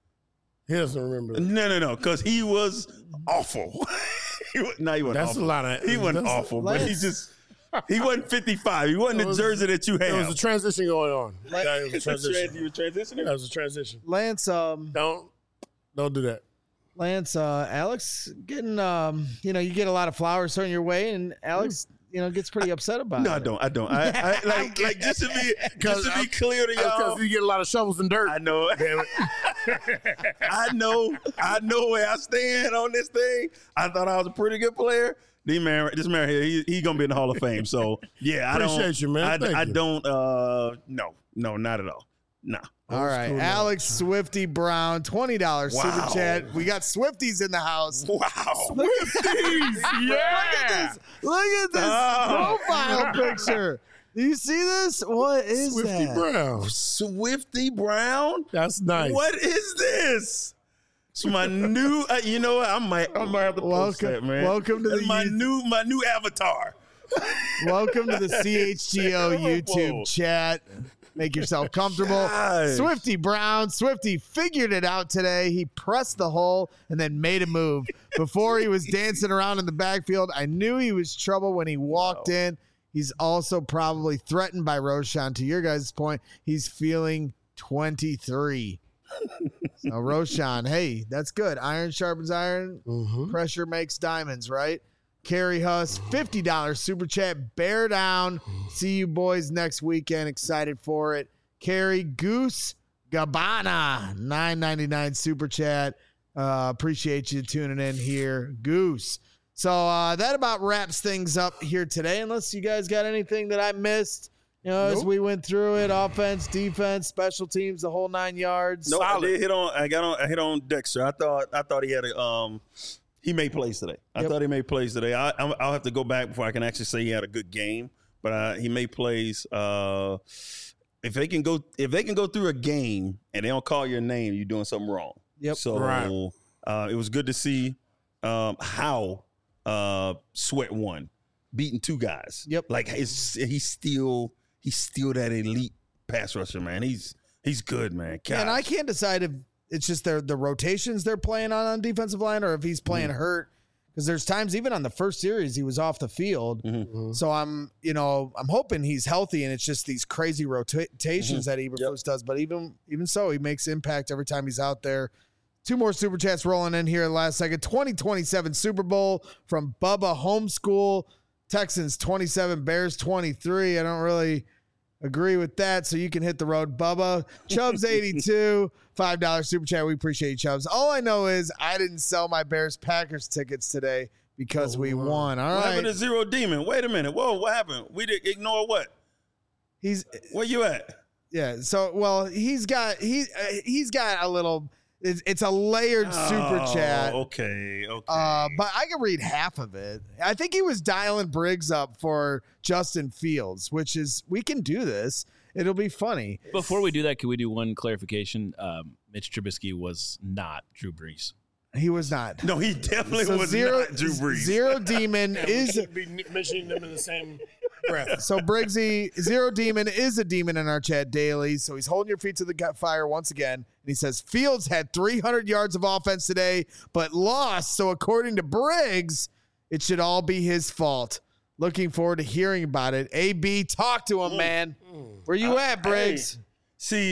He doesn't remember. No, no, no, because he was awful. he was, no, he wasn't That's awful. a lot of. He wasn't that's- awful, but he Lance- just, he wasn't fifty-five. He wasn't It the was- jersey that you There was have. a transition going on. Like- Yeah, it was a transition. You were transitioning? That was a transition. Lance, um, Don't, don't do that. Lance, uh, Alex getting, um, you know, you get a lot of flowers thrown your way, and Alex, you know, gets pretty upset about No, it. I don't. I don't. I, I like, like just to be, just to be clear to y'all. Because you get a lot of shovels and dirt. I know. Damn it. I know. I know where I stand on this thing. I thought I was a pretty good player. This man, this man here, he, he gonna be in the Hall of Fame. So yeah, I don't. Appreciate you, man. I, Thank I you. don't. Uh, no, no, not at all. Nah. All right, cool, man. Alex Swifty Brown, twenty dollars Wow. super chat. We got Swifties in the house. Wow. yeah. Look at this Oh. profile picture. Do you see this? What is Swifty that? Brown. Swifty Brown. That's nice. What is this? It's my new. Uh, you know what? I might. I might have to post Welcome- that, man. welcome to That's the my youth- new. My new avatar. Welcome to the C H G O YouTube Whoa. chat. Make yourself comfortable. Gosh. Swifty Brown. Swifty figured it out today. He pressed the hole and then made a move. Before he was dancing around in the backfield, I knew he was trouble when he walked in. He's also probably threatened by Roschon. To your guys' point, he's feeling twenty-three. So Roschon, hey, that's good. Iron sharpens iron. Mm-hmm. Pressure makes diamonds, right? Carrie Huss, fifty dollars super chat. Bear down. See you boys next weekend. Excited for it. Carrie Goose Gabbana, nine ninety-nine super chat. Uh, appreciate you tuning in here, Goose. So uh, that about wraps things up here today. Unless you guys got anything that I missed, you know, as Nope. we went through it, offense, defense, special teams, the whole nine yards. No, I did hit on. I got on. I hit on Dexter. I thought. I thought he had a. Um, he made plays today. I Yep. thought he made plays today. I, I'm- I'll have to go back before I can actually say he had a good game. But uh, he made plays. Uh, if they can go, if they can go through a game and they don't call your name, you're doing something wrong. Yep. So Right. uh, it was good to see um, how uh, Sweat won, beating two guys. Yep. Like it's, he's still he's still that elite pass rusher, man. He's he's good, man. And Gosh. I can't decide if it's just their the rotations they're playing on on defensive line, or if he's playing mm-hmm. hurt. Because there's times even on the first series he was off the field. Mm-hmm. So I'm, you know, I'm hoping he's healthy and it's just these crazy rotations mm-hmm. that Eberflus yep. does. But even even so, he makes impact every time he's out there. Two more Super Chats rolling in here last second. twenty twenty-seven Super Bowl from Bubba Homeschool. Texans twenty-seven, Bears twenty-three. I don't really agree with that, so you can hit the road, Bubba. Chubbs eighty-two, five dollar Super Chat. We appreciate you, Chubbs. All I know is I didn't sell my Bears-Packers tickets today because oh, we won. All what right. happened to Zero Demon? Wait a minute. Whoa, what happened? We did ignore what? He's Where you at? Yeah, so, well, he's got, he, uh, he's got a little... It's, it's a layered super oh, chat. Okay, okay. Uh, but I can read half of it. I think he was dialing Briggs up for Justin Fields, which is, we can do this. It'll be funny. Before we do that, can we do one clarification? Um, Mitch Trubisky was not Drew Brees. He was not. No, he definitely so was zero, not Drew Brees. Zero Demon is be mentioning them in the same breath. So Briggsy, Zero Demon is a demon in our chat daily. So he's holding your feet to the fire once again. And he says Fields had three hundred yards of offense today, but lost. So according to Briggs, it should all be his fault. Looking forward to hearing about it. A B, talk to him, man. Where you uh, at, Briggs? Hey, see,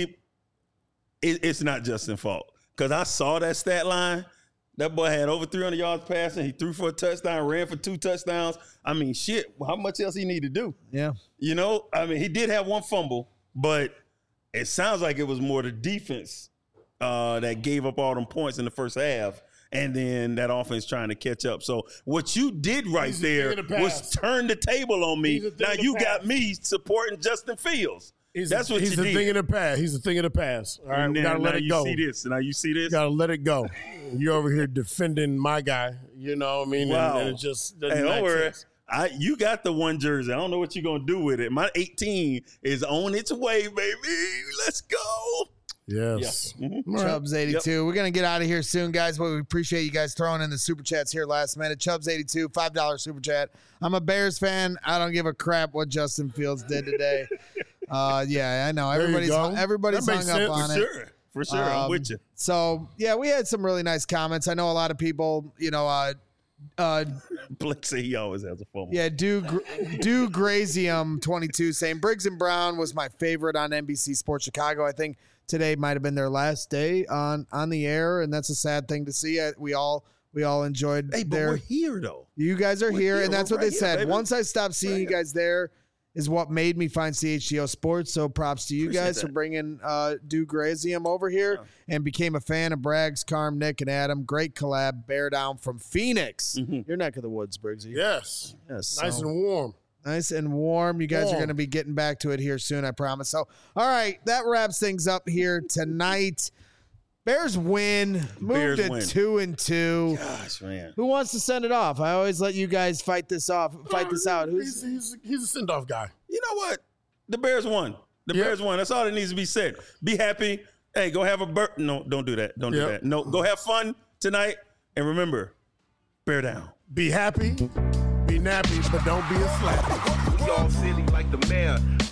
it, it's not Justin's fault because I saw that stat line. That boy had over three hundred yards passing. He threw for a touchdown, ran for two touchdowns. I mean, shit, how much else he need to do? Yeah. You know, I mean, he did have one fumble, but it sounds like it was more the defense uh, that gave up all them points in the first half, and then that offense trying to catch up. So what you did right He's there the was turn the table on me. Now you got me supporting Justin Fields. He's That's a, what he's you a did. thing in the past. He's a thing in the past. All right, and we now, gotta let now it you go. See this? Now you see this? Gotta let it go. You're over here defending my guy. You know what I mean? Wow. And, and it just Hey, doesn't don't make worry. sense. I you got the one jersey. I don't know what you're gonna do with it. My eighteen is on its way, baby. Let's go. Yes. Yeah. Mm-hmm. Right. Chubbs eighty-two. Yep. We're going to get out of here soon, guys, but we appreciate you guys throwing in the super chats here last minute. Chubbs eighty-two, five dollar super chat. I'm a Bears fan. I don't give a crap what Justin Fields did today. uh, yeah, I know. Everybody's everybody's hung sense. up on For it. sure. For sure. Um, I'm with you. So, yeah, we had some really nice comments. I know a lot of people, you know, uh, uh, Blake say he always has a fumble. yeah, do do Grazium twenty-two saying Briggs and Brown was my favorite on N B C Sports Chicago. I think today might have been their last day on on the air, and that's a sad thing to see. We all we all enjoyed. Hey, but their, we're here though. You guys are we're here, here, and that's we're what right they said. here, Once I stopped seeing right you guys there, is what made me find C H G O Sports. So props to you Appreciate guys that. for bringing uh, Do Grazium over here, yeah. and became a fan of Braggs, Carm, Nick, and Adam. Great collab. Bear down from Phoenix. Mm-hmm. Your neck of the woods, Briggsy. Yes. Yes. Nice so. and warm. Nice and warm. You guys warm. are going to be getting back to it here soon, I promise. So, all right, that wraps things up here tonight. Bears win. Move Bears to win. two and two. Gosh, man. Who wants to send it off? I always let you guys fight this off. Fight this out. Who's He's, he's, he's a send-off guy. You know what? The Bears won. The Yep. Bears won. That's all that needs to be said. Be happy. Hey, go have a bur- No, don't do that. Don't do Yep. that. No, go have fun tonight. And remember, bear down. Be happy, be nappy, but don't be a slappy. We all silly like the mayor.